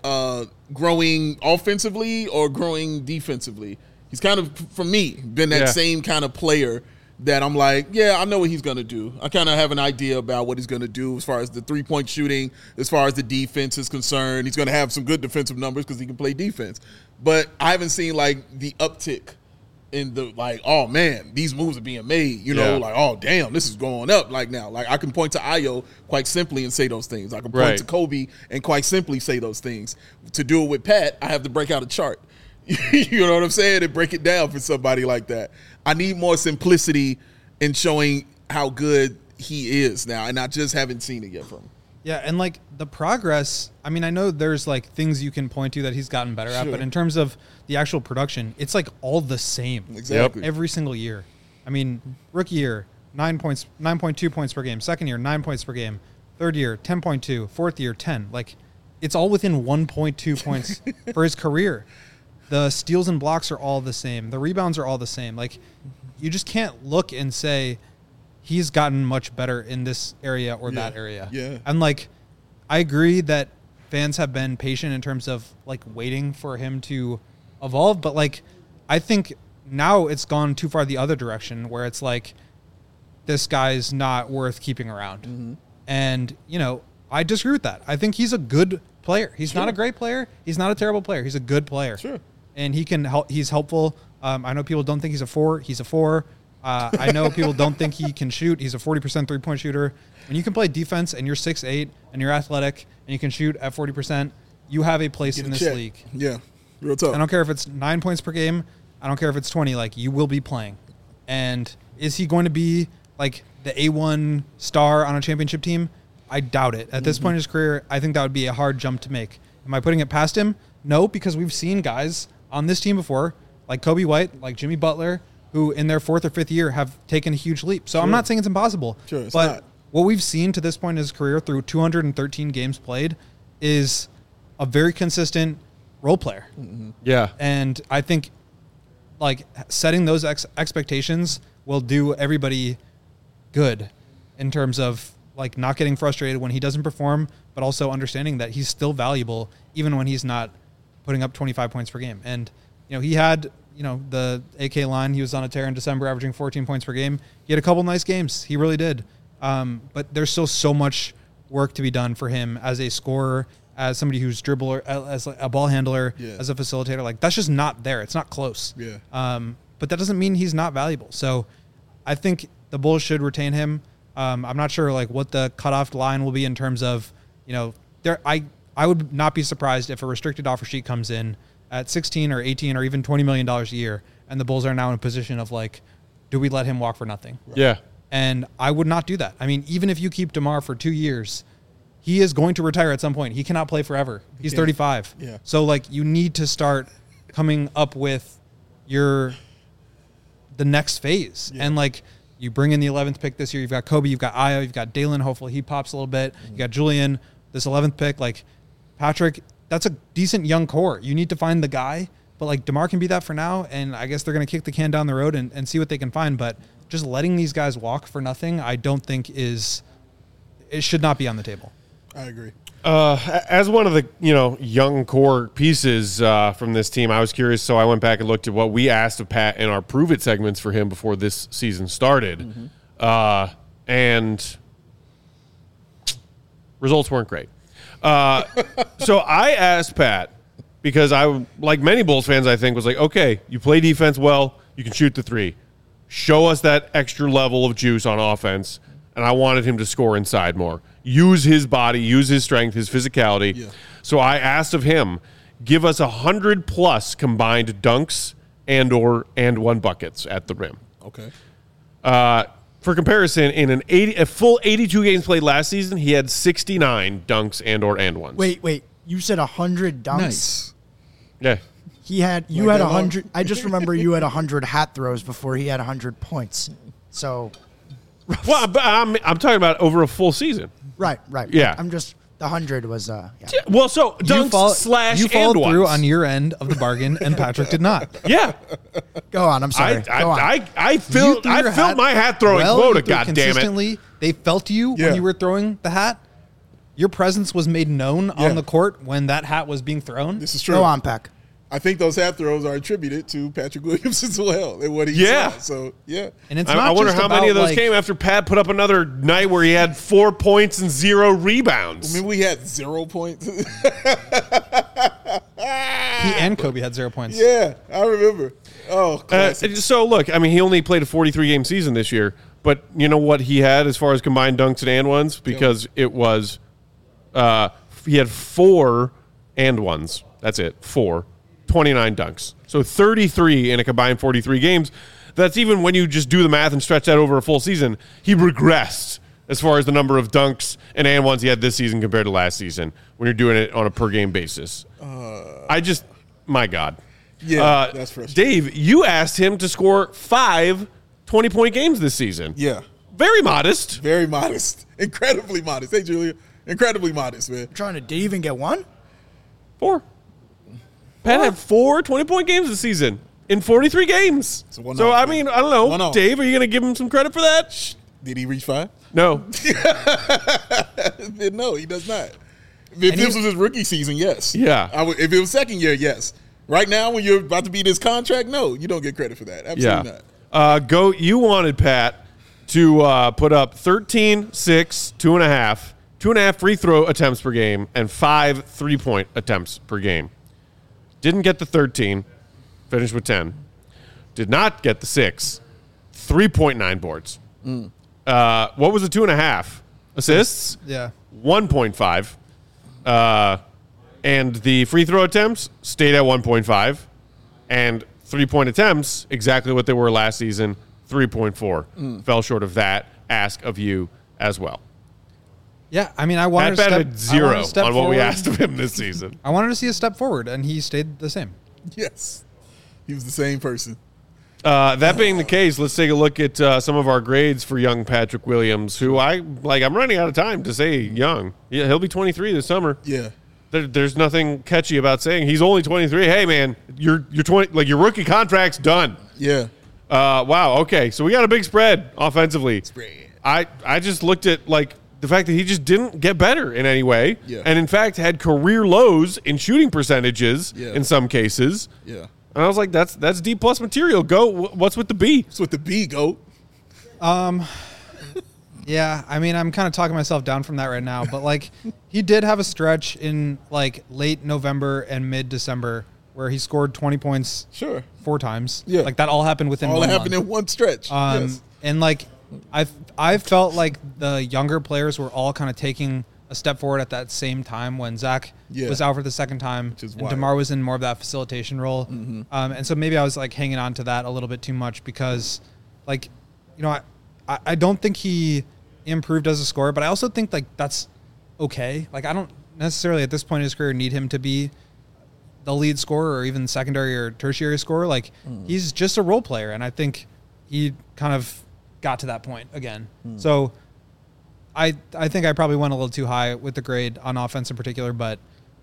growing offensively or growing defensively. He's kind of, for me, been that same kind of player that I'm like, yeah, I know what he's going to do. I kind of have an idea about what he's going to do as far as the three-point shooting, as far as the defense is concerned. He's going to have some good defensive numbers because he can play defense. But I haven't seen, the uptick in the, oh, man, these moves are being made. Like, oh, damn, this is going up now. I can point to Ayo quite simply and say those things. I can point to Kobe and quite simply say those things. To do it with Pat, I have to break out a chart. You know what I'm saying? And break it down for somebody like that. I need more simplicity in showing how good he is now, and I just haven't seen it yet from him. Yeah, and the progress, I mean, I know there's things you can point to that he's gotten better at, but in terms of the actual production, it's all the same. Exactly. Every single year. I mean, rookie year, 9.2 points per game. Second year, 9 points per game. Third year, 10.2. Fourth year, 10. It's all within 1.2 points for his career. The steals and blocks are all the same. The rebounds are all the same. You just can't look and say he's gotten much better in this area or that area. Yeah. And I agree that fans have been patient in terms of waiting for him to evolve, but I think now it's gone too far the other direction where it's this guy's not worth keeping around. Mm-hmm. And, I disagree with that. I think he's a good player. He's not a great player. He's not a terrible player. He's a good player. Sure. And he can help. He's helpful. I know people don't think he's a 4. He's a 4. I know people don't think he can shoot. He's a 40% three-point shooter. When you can play defense and you're 6'8" and you're athletic and you can shoot at 40%, you have a place in this league. Yeah, real tough. I don't care if it's 9 points per game. I don't care if it's 20. You will be playing. And is he going to be the A1 star on a championship team? I doubt it. At this point in his career, I think that would be a hard jump to make. Am I putting it past him? No, because we've seen guys on this team before, like Kobe White, like Jimmy Butler, who in their 4th or 5th year have taken a huge leap. So I'm not saying it's impossible. Sure, it's but not. What we've seen to this point in his career through 213 games played is a very consistent role player. Mm-hmm. Yeah. And I think setting those expectations will do everybody good in terms of like not getting frustrated when he doesn't perform, but also understanding that he's still valuable even when he's not putting up 25 points per game. And, he had, the AK line, he was on a tear in December, averaging 14 points per game. He had a couple nice games. He really did. But there's still so much work to be done for him as a scorer, as somebody who's dribbler, as a ball handler, as a facilitator. Like, that's just not there. It's not close. Yeah. But that doesn't mean he's not valuable. So I think the Bulls should retain him. I'm not sure like what the cutoff line will be in terms of, I would not be surprised if a restricted offer sheet comes in at 16 or 18 or even $20 million a year, and the Bulls are now in a position of like, do we let him walk for nothing? Yeah. And I would not do that. I mean, even if you keep DeMar for 2 years, he is going to retire at some point. He cannot play forever. He's 35. Yeah. So like you need to start coming up with the next phase. Yeah. And like you bring in the 11th pick this year. You've got Kobe, you've got Ayo, you've got Dalen. Hopefully he pops a little bit. You got Julian, this 11th pick. Like Patrick, that's a decent young core. You need to find the guy, but like DeMar can be that for now. And I guess they're going to kick the can down the road and see what they can find. But just letting these guys walk for nothing, I don't think it should not be on the table. I agree. As one of the young core pieces from this team, I was curious, so I went back and looked at what we asked of Pat in our Prove It segments for him before this season started, and results weren't great. So I asked Pat, because I, like many Bulls fans, I think, was like, okay, you play defense well, you can shoot the three. Show us that extra level of juice on offense, and I wanted him to score inside more. Use his body, use his strength, his physicality. Yeah. So I asked of him, give us 100+ combined dunks and one buckets at the rim. Okay. For comparison, in a full 82 games played last season, he had 69 dunks and ones. Wait. You said 100 dunks? Nice. Yeah. You had 100. I just remember you had 100 hat throws before he had 100 points. So. Well, I'm talking about over a full season. Right. Yeah. I'm just, the 100 was, yeah. Well, so dunks you and followed ones. through on your end of the bargain, and Patrick did not. Yeah. Go on, I'm sorry. Go on. I filled my hat throwing quota, goddammit. They felt you when you were throwing the hat. Your presence was made known on the court when that hat was being thrown. This is true. Go on, Peck. I think those hat throws are attributed to Patrick Williams as well and what he saw. So, yeah. And it's I wonder how many of those came after Pat put up another night where he had 4 points and 0 rebounds. I mean, we had 0 points. He and Kobe had 0 points. Yeah, I remember. Oh, classic. So, look, I mean, he only played a 43-game season this year, but you know what he had as far as combined dunks and ones? Because it was he had 4 and ones. That's it, 4. 29 dunks. So 33 in a combined 43 games. That's even when you just do the math and stretch that over a full season. He regressed as far as the number of dunks and ones he had this season compared to last season when you're doing it on a per-game basis. My God. Yeah, that's frustrating. Dave, you asked him to score 5 20-point games this season. Yeah. Very modest. Very modest. Incredibly modest. Hey, Julia. Incredibly modest, man. Did he even get one? 4. Pat had 4 20-point games this season in 43 games. So I mean, I don't know. Dave, are you going to give him some credit for that? Did he reach 5? No. No, he does not. If this was his rookie season, yes. Yeah. If it was second year, yes. Right now, when you're about to beat his contract, no, you don't get credit for that. Absolutely not. You wanted Pat to put up 13, 6, 2.5, 2.5 free throw attempts per game, and 5 3-point attempts per game. Didn't get the 13, finished with 10. Did not get the 6, 3.9 boards. What was the 2.5? Assists? Yeah. 1.5. And the free throw attempts stayed at 1.5. And 3-point attempts, exactly what they were last season, 3.4. Fell short of that ask of you as well. Yeah, I mean, I wanted Pat to batted 0 on what forward. we asked of him this season. I wanted to see a step forward, and he stayed the same. Yes. He was the same person. That being the case, let's take a look at some of our grades for young Patrick Williams, who I'm running out of time to say young. Yeah, he'll be 23 this summer. Yeah. There's nothing catchy about saying he's only 23. Hey, man, you're 20. Like, your rookie contract's done. Yeah. Wow. Okay. So we got a big spread offensively. I just looked at the fact that he just didn't get better in any way, Yeah. and in fact had career lows in shooting percentages Yeah. in some cases. Yeah. And I was like, that's D plus material. Go. What's with the B? It's with the B, GOAT. Yeah, I mean, I'm kind of talking myself down from that right now, but like he did have a stretch in like late November and mid December where he scored 20 points Sure. 4 times. Yeah. Like that all happened within All one that happened month. in one stretch. Yes. And like I felt like the younger players were all kind of taking a step forward at that same time when Zach Yeah. was out for the second time is and wild. DeMar was in more of that facilitation role. And so maybe I was like hanging on to that a little bit too much because like, you know, I don't think he improved as a scorer, but I also think like that's okay. Like I don't necessarily at this point in his career need him to be the lead scorer or even secondary or tertiary scorer. Like he's just a role player, and I think he kind of got to that point again. So I think I probably went a little too high with the grade on offense in particular, but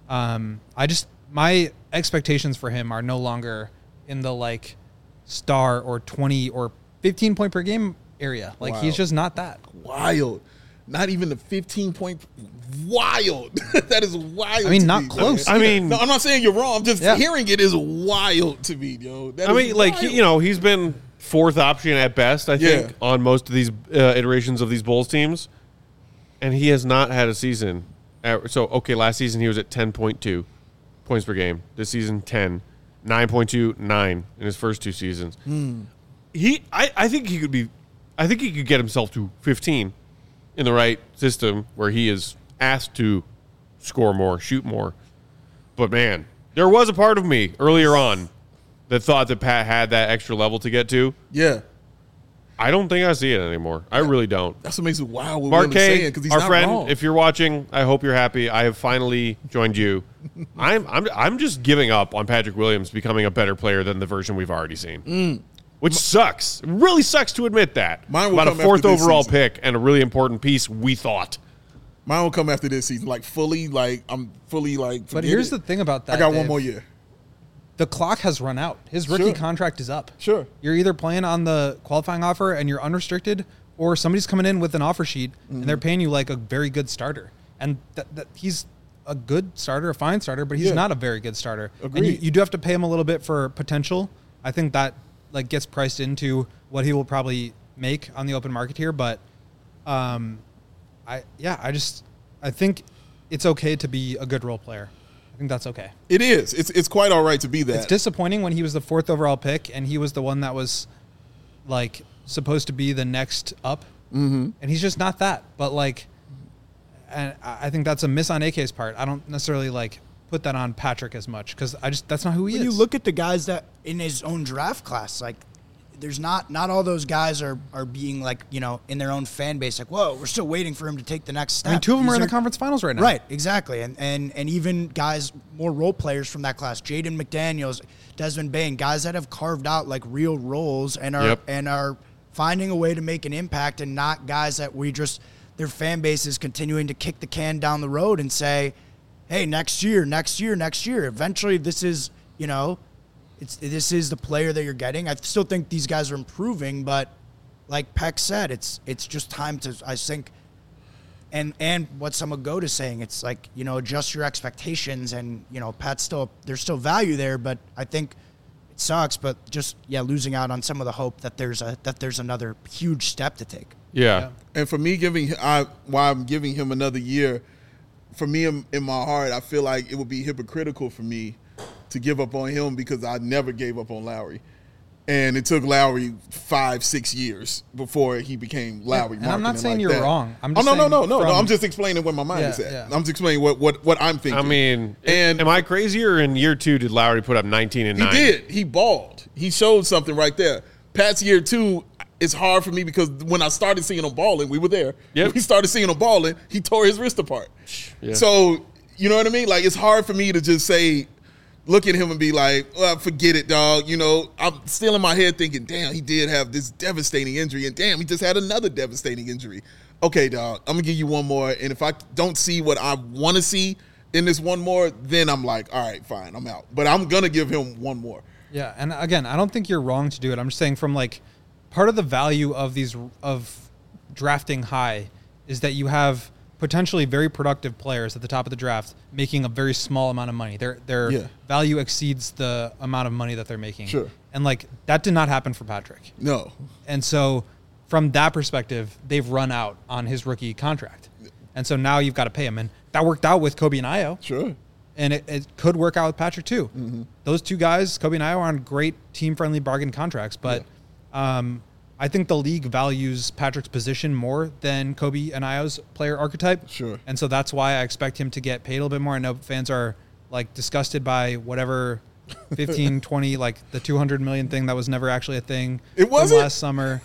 my expectations for him are no longer in the like star or 20 or 15 point per game area. Like Wow. he's just not that. Wild. Not even the 15-point. Wild. That is wild. I mean, to not me, close. man. I mean, No, I'm not saying you're wrong. I'm just Yeah. hearing it is wild to me, yo. That I is mean, like wild. you know, he's been fourth option at best, I think, Yeah. on most of these iterations of these Bulls teams, and he has not had a season. So okay, last season he was at 10.2 points per game. This season 10, 9.2, 9 in his first 2 seasons. I think he could be. I think he could get himself to 15 in the right system where he is asked to score more, shoot more. But man, there was a part of me earlier on that thought that Pat had that extra level to get to. Yeah. I don't think I see it anymore. I really don't. That's what makes it wild. What Mark Will is saying, K, because he's our not friend, wrong. if you're watching, I hope you're happy. I have finally joined you. I'm just giving up on Patrick Williams becoming a better player than the version we've already seen. Which sucks. It really sucks to admit that. Mine will About a come after 4th this overall season. pick and a really important piece, we thought. Mine will come after this season. Like, fully, like, I'm fully, like, But forget here's it. the thing about that. I got one Dave. more year. The clock has run out. His rookie Sure. contract is up. Sure. You're either playing on the qualifying offer and you're unrestricted, or somebody's coming in with an offer sheet and they're paying you like a very good starter. And that he's a good starter, a fine starter, but he's Yeah. not a very good starter. And Agreed. you do have to pay him a little bit for potential. I think that like gets priced into what he will probably make on the open market here. But I think it's okay to be a good role player. I think that's okay. It is. It's quite all right to be that. It's disappointing when he was the 4th overall pick and he was the one that was like supposed to be the next up, and he's just not that. But like, and I think that's a miss on AK's part. I don't necessarily like put that on Patrick as much because that's not who he When is. you look at the guys that in his own draft class, like there's not all those guys are being like, you know, in their own fan base, like, whoa, we're still waiting for him to take the next step. I mean, 2 of them These are in the conference finals right now. Right, exactly. And even guys, more role players from that class, Jaden McDaniels, Desmond Bain, guys that have carved out like real roles and are finding a way to make an impact, and not guys that their fan base is continuing to kick the can down the road and say, hey, next year. Eventually this is, you know, this is the player that you're getting. I still think these guys are improving, but like Peck said, it's just time to, I think, and what some of Goat is saying, it's like, you know, adjust your expectations, and, you know, there's still value there, but I think it sucks, but just, losing out on some of the hope that there's another huge step to take. Yeah. And for me, why I'm giving him another year, for me in my heart, I feel like it would be hypocritical for me to give up on him because I never gave up on Lowry. And it took Lowry 5-6 years before he became Lowry. And I'm not marketing saying like you're that. wrong. I'm Oh, just no. saying I'm just explaining where my mind is at. Yeah. I'm just explaining what I'm thinking. I mean, And- am I crazy, or in year 2 did Lowry put up 19 and 9? He did. He balled. He showed something right there. Pat's year 2, it's hard for me because when I started seeing him balling, we were there. Yep. When we started seeing him balling, he tore his wrist apart. Yeah. So, you know what I mean? Like, it's hard for me to just say, look at him and be like, well, forget it, dog. You know, I'm still in my head thinking, damn, he did have this devastating injury, and damn, he just had another devastating injury. Okay, dog, I'm going to give you one more, and if I don't see what I want to see in this one more, then I'm like, all right, fine, I'm out. But I'm going to give him one more. Yeah, and again, I don't think you're wrong to do it. I'm just saying from like part of the value of drafting high is that you have potentially very productive players at the top of the draft making a very small amount of money. Their value exceeds the amount of money that they're making. Sure. And like that did not happen for Patrick. No. And so from that perspective, they've run out on his rookie contract. And so now you've got to pay him. And that worked out with Kobe and Ayo. Sure. And it could work out with Patrick too. Mm-hmm. Those two guys, Kobe and Ayo, are on great team-friendly bargain contracts. But I think the league values Patrick's position more than Kobe and Ayo's player archetype. Sure. And so that's why I expect him to get paid a little bit more. I know fans are like disgusted by whatever 15, 20, like the 200 million thing that was never actually a thing. It wasn't? Last summer.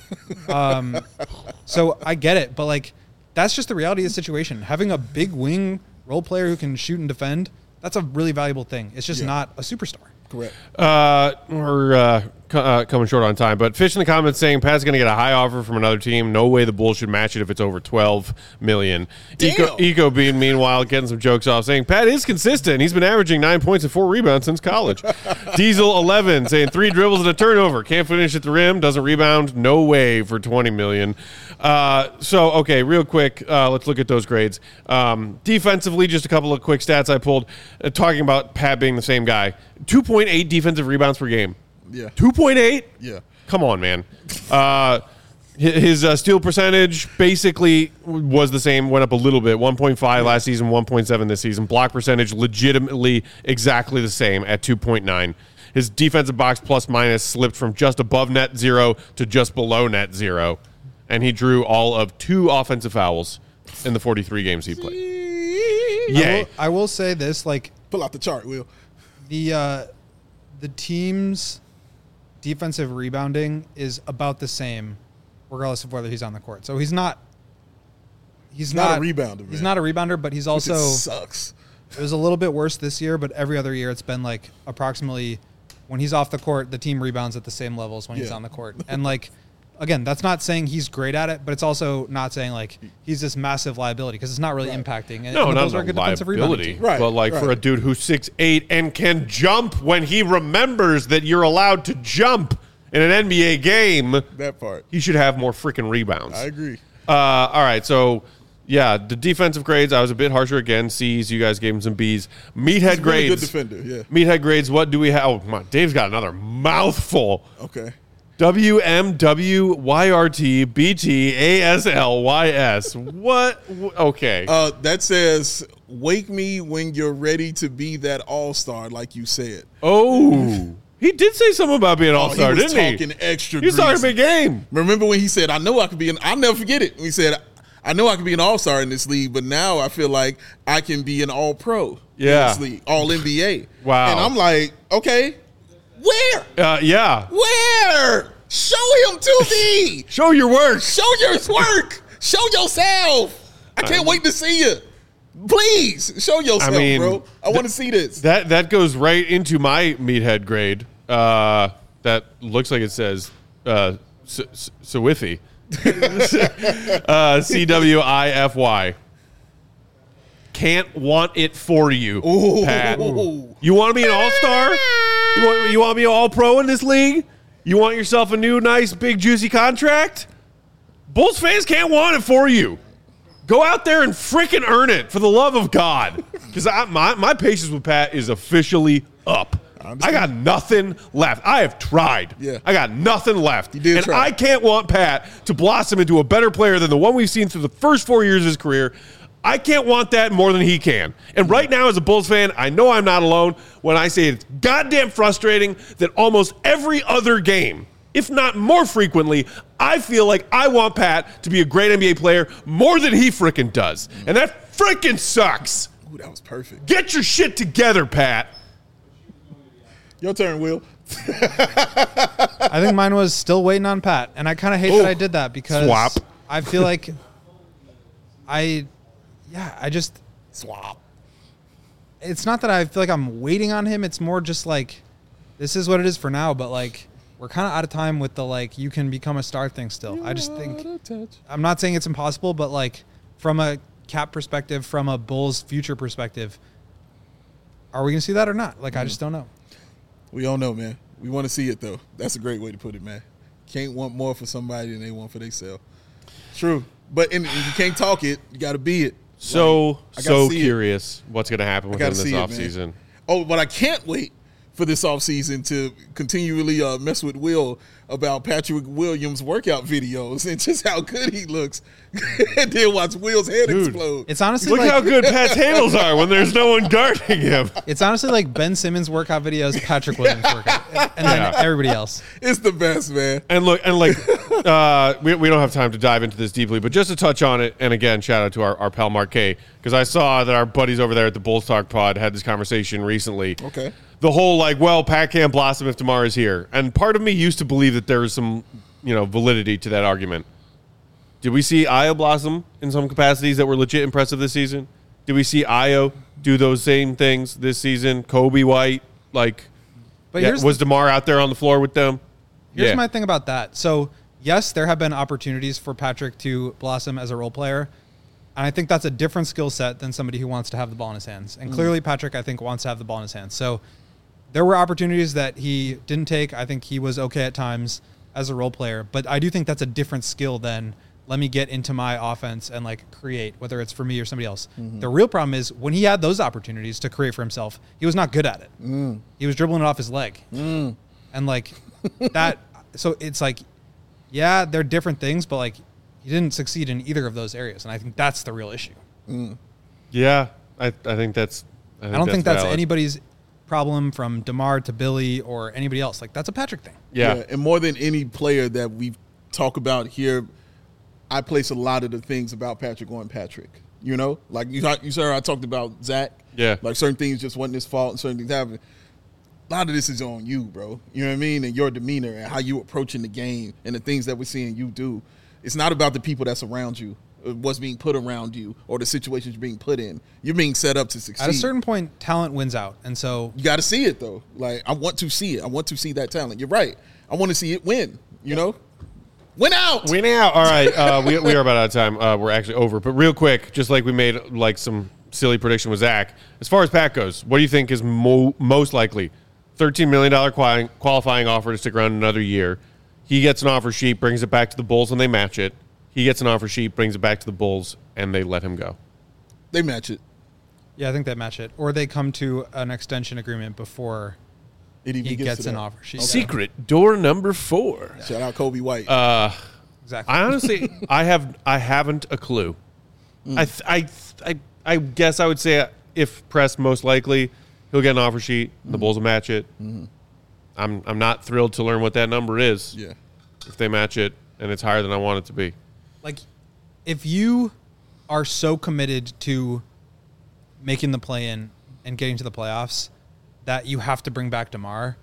So I get it, but like that's just the reality of the situation. Having a big wing role player who can shoot and defend, that's a really valuable thing. It's just not a superstar. Correct. We're coming short on time, but Fish in the comments saying Pat's going to get a high offer from another team. No way the Bulls should match it if it's over $12 million. Eco Bean, meanwhile, getting some jokes off, saying Pat is consistent. He's been averaging 9 points and 4 rebounds since college. Diesel 11 saying 3 dribbles and a turnover. Can't finish at the rim. Doesn't rebound. No way for $20 million. So, okay, real quick, let's look at those grades. Defensively, just a couple of quick stats I pulled, talking about Pat being the same guy. 2.8 defensive rebounds per game. Yeah. 2.8? Yeah. Come on, man. His steal percentage basically was the same, went up a little bit. 1.5 last season, 1.7 this season. Block percentage legitimately exactly the same at 2.9. His defensive box plus minus slipped from just above net zero to just below net zero. And he drew all of 2 offensive fouls in the 43 games he played. Yay. I will say this, like, Pull out the chart, Will. the team's defensive rebounding is about the same regardless of whether he's on the court. So he's not a rebounder, man. He's not a rebounder, but he's also sucks. It was a little bit worse this year, but every other year it's been like approximately when he's off the court, the team rebounds at the same level as when he's on the court. And like again, that's not saying he's great at it, but it's also not saying like he's this massive liability because it's not really impacting. No, and not those are good defensive liability. rebounding. Right, but like for a dude who's 6'8" and can jump when he remembers that you're allowed to jump in an NBA game, That part. he should have more freaking rebounds. I agree. All right, so yeah, the defensive grades, I was a bit harsher again. C's, you guys gave him some B's. Meathead grades. Really good defender, yeah. Meathead grades, what do we have? Oh, my, Dave's got another mouthful. Okay. WMWYRTBTASLYS. What? Okay. That says, wake me when you're ready to be that all-star, like you said. Oh. He did say something about being an all-star, didn't he? He was talking extra He was talking a greasy. big game. Remember when he said, I know I could be I'll never forget it. He said, I know I can be an all-star in this league, but now I feel like I can be an all-pro in this league, all-NBA. Wow. And I'm like, okay, where? Yeah. Where? Show him to me. Show your work. Show your work. Show yourself. I can't wait to see you. Please, show yourself, bro. I want to see this. That goes right into my meathead grade. That looks like it says Swifty. CWIFY. Can't want it for you, Pat. You want to be an all-star? You want to be an all-pro in this league? You want yourself a new, nice, big, juicy contract? Bulls fans can't want it for you. Go out there and freaking earn it, for the love of God. Because my patience with Pat is officially up. I got nothing left. I have tried. Yeah. I got nothing left. You did and try. I can't want Pat to blossom into a better player than the one we've seen through the first 4 years of his career. I can't want that more than he can. And right now, as a Bulls fan, I know I'm not alone when I say it's goddamn frustrating that almost every other game, if not more frequently, I feel like I want Pat to be a great NBA player more than he freaking does. And that freaking sucks. Ooh, that was perfect. Get your shit together, Pat. Your turn, Will. I think mine was still waiting on Pat, and I kind of hate that I did that because Swap. I feel like I just Swap. it's not that I feel like I'm waiting on him. It's more just like this is what it is for now. But like we're kind of out of time with the like you can become a star thing still. I just think I'm not saying it's impossible, but like from a cap perspective, from a Bulls future perspective, are we gonna see that or not? Like I just don't know. We don't know, man. We want to see it, though. That's a great way to put it, man. Can't want more for somebody than they want for themselves. True. But if you can't talk it, you got to be it. So see curious what's going to happen with him this offseason. Oh, but I can't wait for this offseason to continually mess with Will about Patrick Williams' workout videos and just how good he looks. And then watch Will's head explode. It's honestly Look how good Pat's handles are when there's no one guarding him. It's honestly like Ben Simmons' workout videos, Patrick Williams' workout, and then everybody else. It's the best, man. And look, and like, we don't have time to dive into this deeply, but just to touch on it, and again, shout out to our pal Mark K, because I saw that our buddies over there at the Bulls Talk Pod had this conversation recently. Okay. The whole like, well, Pat can't blossom if DeMar is here, and part of me used to believe that there was some, validity to that argument. Did we see Ayo blossom in some capacities that were legit impressive this season? Did we see Ayo do those same things this season? Kobe White, was DeMar out there on the floor with them? Here's my thing about that. So, yes, there have been opportunities for Patrick to blossom as a role player, and I think that's a different skill set than somebody who wants to have the ball in his hands. And clearly, Patrick, I think, wants to have the ball in his hands. So, there were opportunities that he didn't take. I think he was okay at times as a role player, but I do think that's a different skill than let me get into my offense and create, whether it's for me or somebody else. Mm-hmm. The real problem is when he had those opportunities to create for himself, he was not good at it. He was dribbling it off his leg. And that, so it's they're different things, but he didn't succeed in either of those areas. And I think that's the real issue. Yeah, I think that's, I don't think that's valid. anybody's problem from DeMar to Billy or anybody else. That's a Patrick thing. Yeah. And more than any player that we talk about here, I place a lot of the things about Patrick on Patrick. You saw I talked about Zach. Yeah. Certain things just wasn't his fault and certain things happened. A lot of this is on you, bro. You know what I mean? And your demeanor and how you approaching the game and the things that we're seeing you do. It's not about the people that's around you, what's being put around you, or the situations you're being put in. You're being set up to succeed. At a certain point, talent wins out. And so you got to see it, though. I want to see it. I want to see that talent. You're right. I want to see it win, Win out. All right. We are about out of time. We're actually over. But real quick, just like we made some silly prediction with Zach, as far as Pat goes, what do you think is most likely? $13 million qualifying offer to stick around another year. He gets an offer sheet, brings it back to the Bulls, and they match it. He gets an offer sheet, brings it back to the Bulls, and they let him go. They match it. Yeah, I think they match it. Or they come to an extension agreement before he gets an offer sheet. Okay. Secret door number 4. Shout out Kobe White. Exactly. I honestly, I haven't a clue. I guess I would say if pressed, most likely he'll get an offer sheet. The Bulls will match it. Mm-hmm. I'm not thrilled to learn what that number is. Yeah. If they match it and it's higher than I want it to be. If you are so committed to making the play-in and getting to the playoffs that you have to bring back DeMar,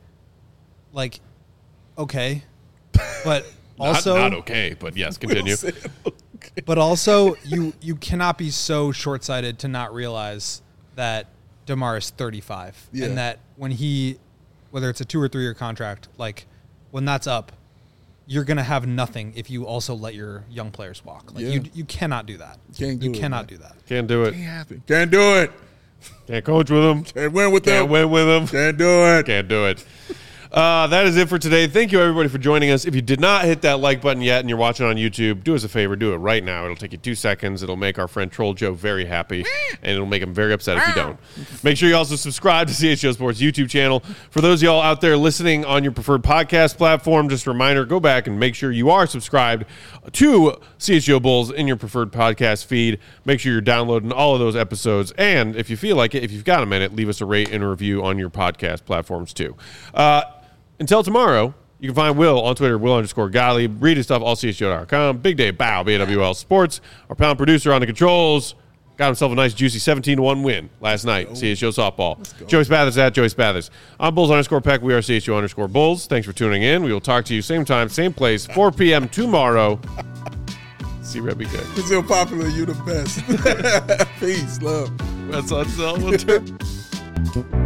okay, but also not okay, but yes, continue. Okay. But also, you cannot be so short-sighted to not realize that DeMar is 35, and that when whether it's a 2 or 3 year contract, when that's up, you're gonna have nothing if you also let your young players walk. You cannot do that. You cannot do that. Can't do it. Can't happen. Can't do it. Can't coach with them. Can't win with them. Can't win with them. Can't do it. Can't do it. That is it for today. Thank you, everybody, for joining us. If you did not hit that like button yet and you're watching on YouTube, do us a favor. Do it right now. It'll take you 2 seconds. It'll make our friend Troll Joe very happy, and it'll make him very upset if you don't. Make sure you also subscribe to CHGO Sports YouTube channel. For those of y'all out there listening on your preferred podcast platform, just a reminder, go back and make sure you are subscribed to CHGO Bulls in your preferred podcast feed. Make sure you're downloading all of those episodes. And if you feel like it, if you've got a minute, leave us a rate and a review on your podcast platforms too. Until tomorrow, you can find Will on Twitter, Will_Gottlieb. Read his stuff, allchgo.com. Big Day Bow, BAWL Sports. Our pound producer on the controls got himself a nice, juicy 17-1 win last night. CHGO softball. Joey Spathers at Joey Spathers. I'm Bulls_Peck. We are CHGO_Bulls. Thanks for tuning in. We will talk to you same time, same place, 4 p.m. tomorrow. See Rebby good. Brazil Popular, you the best. Peace, love. That's on Selma.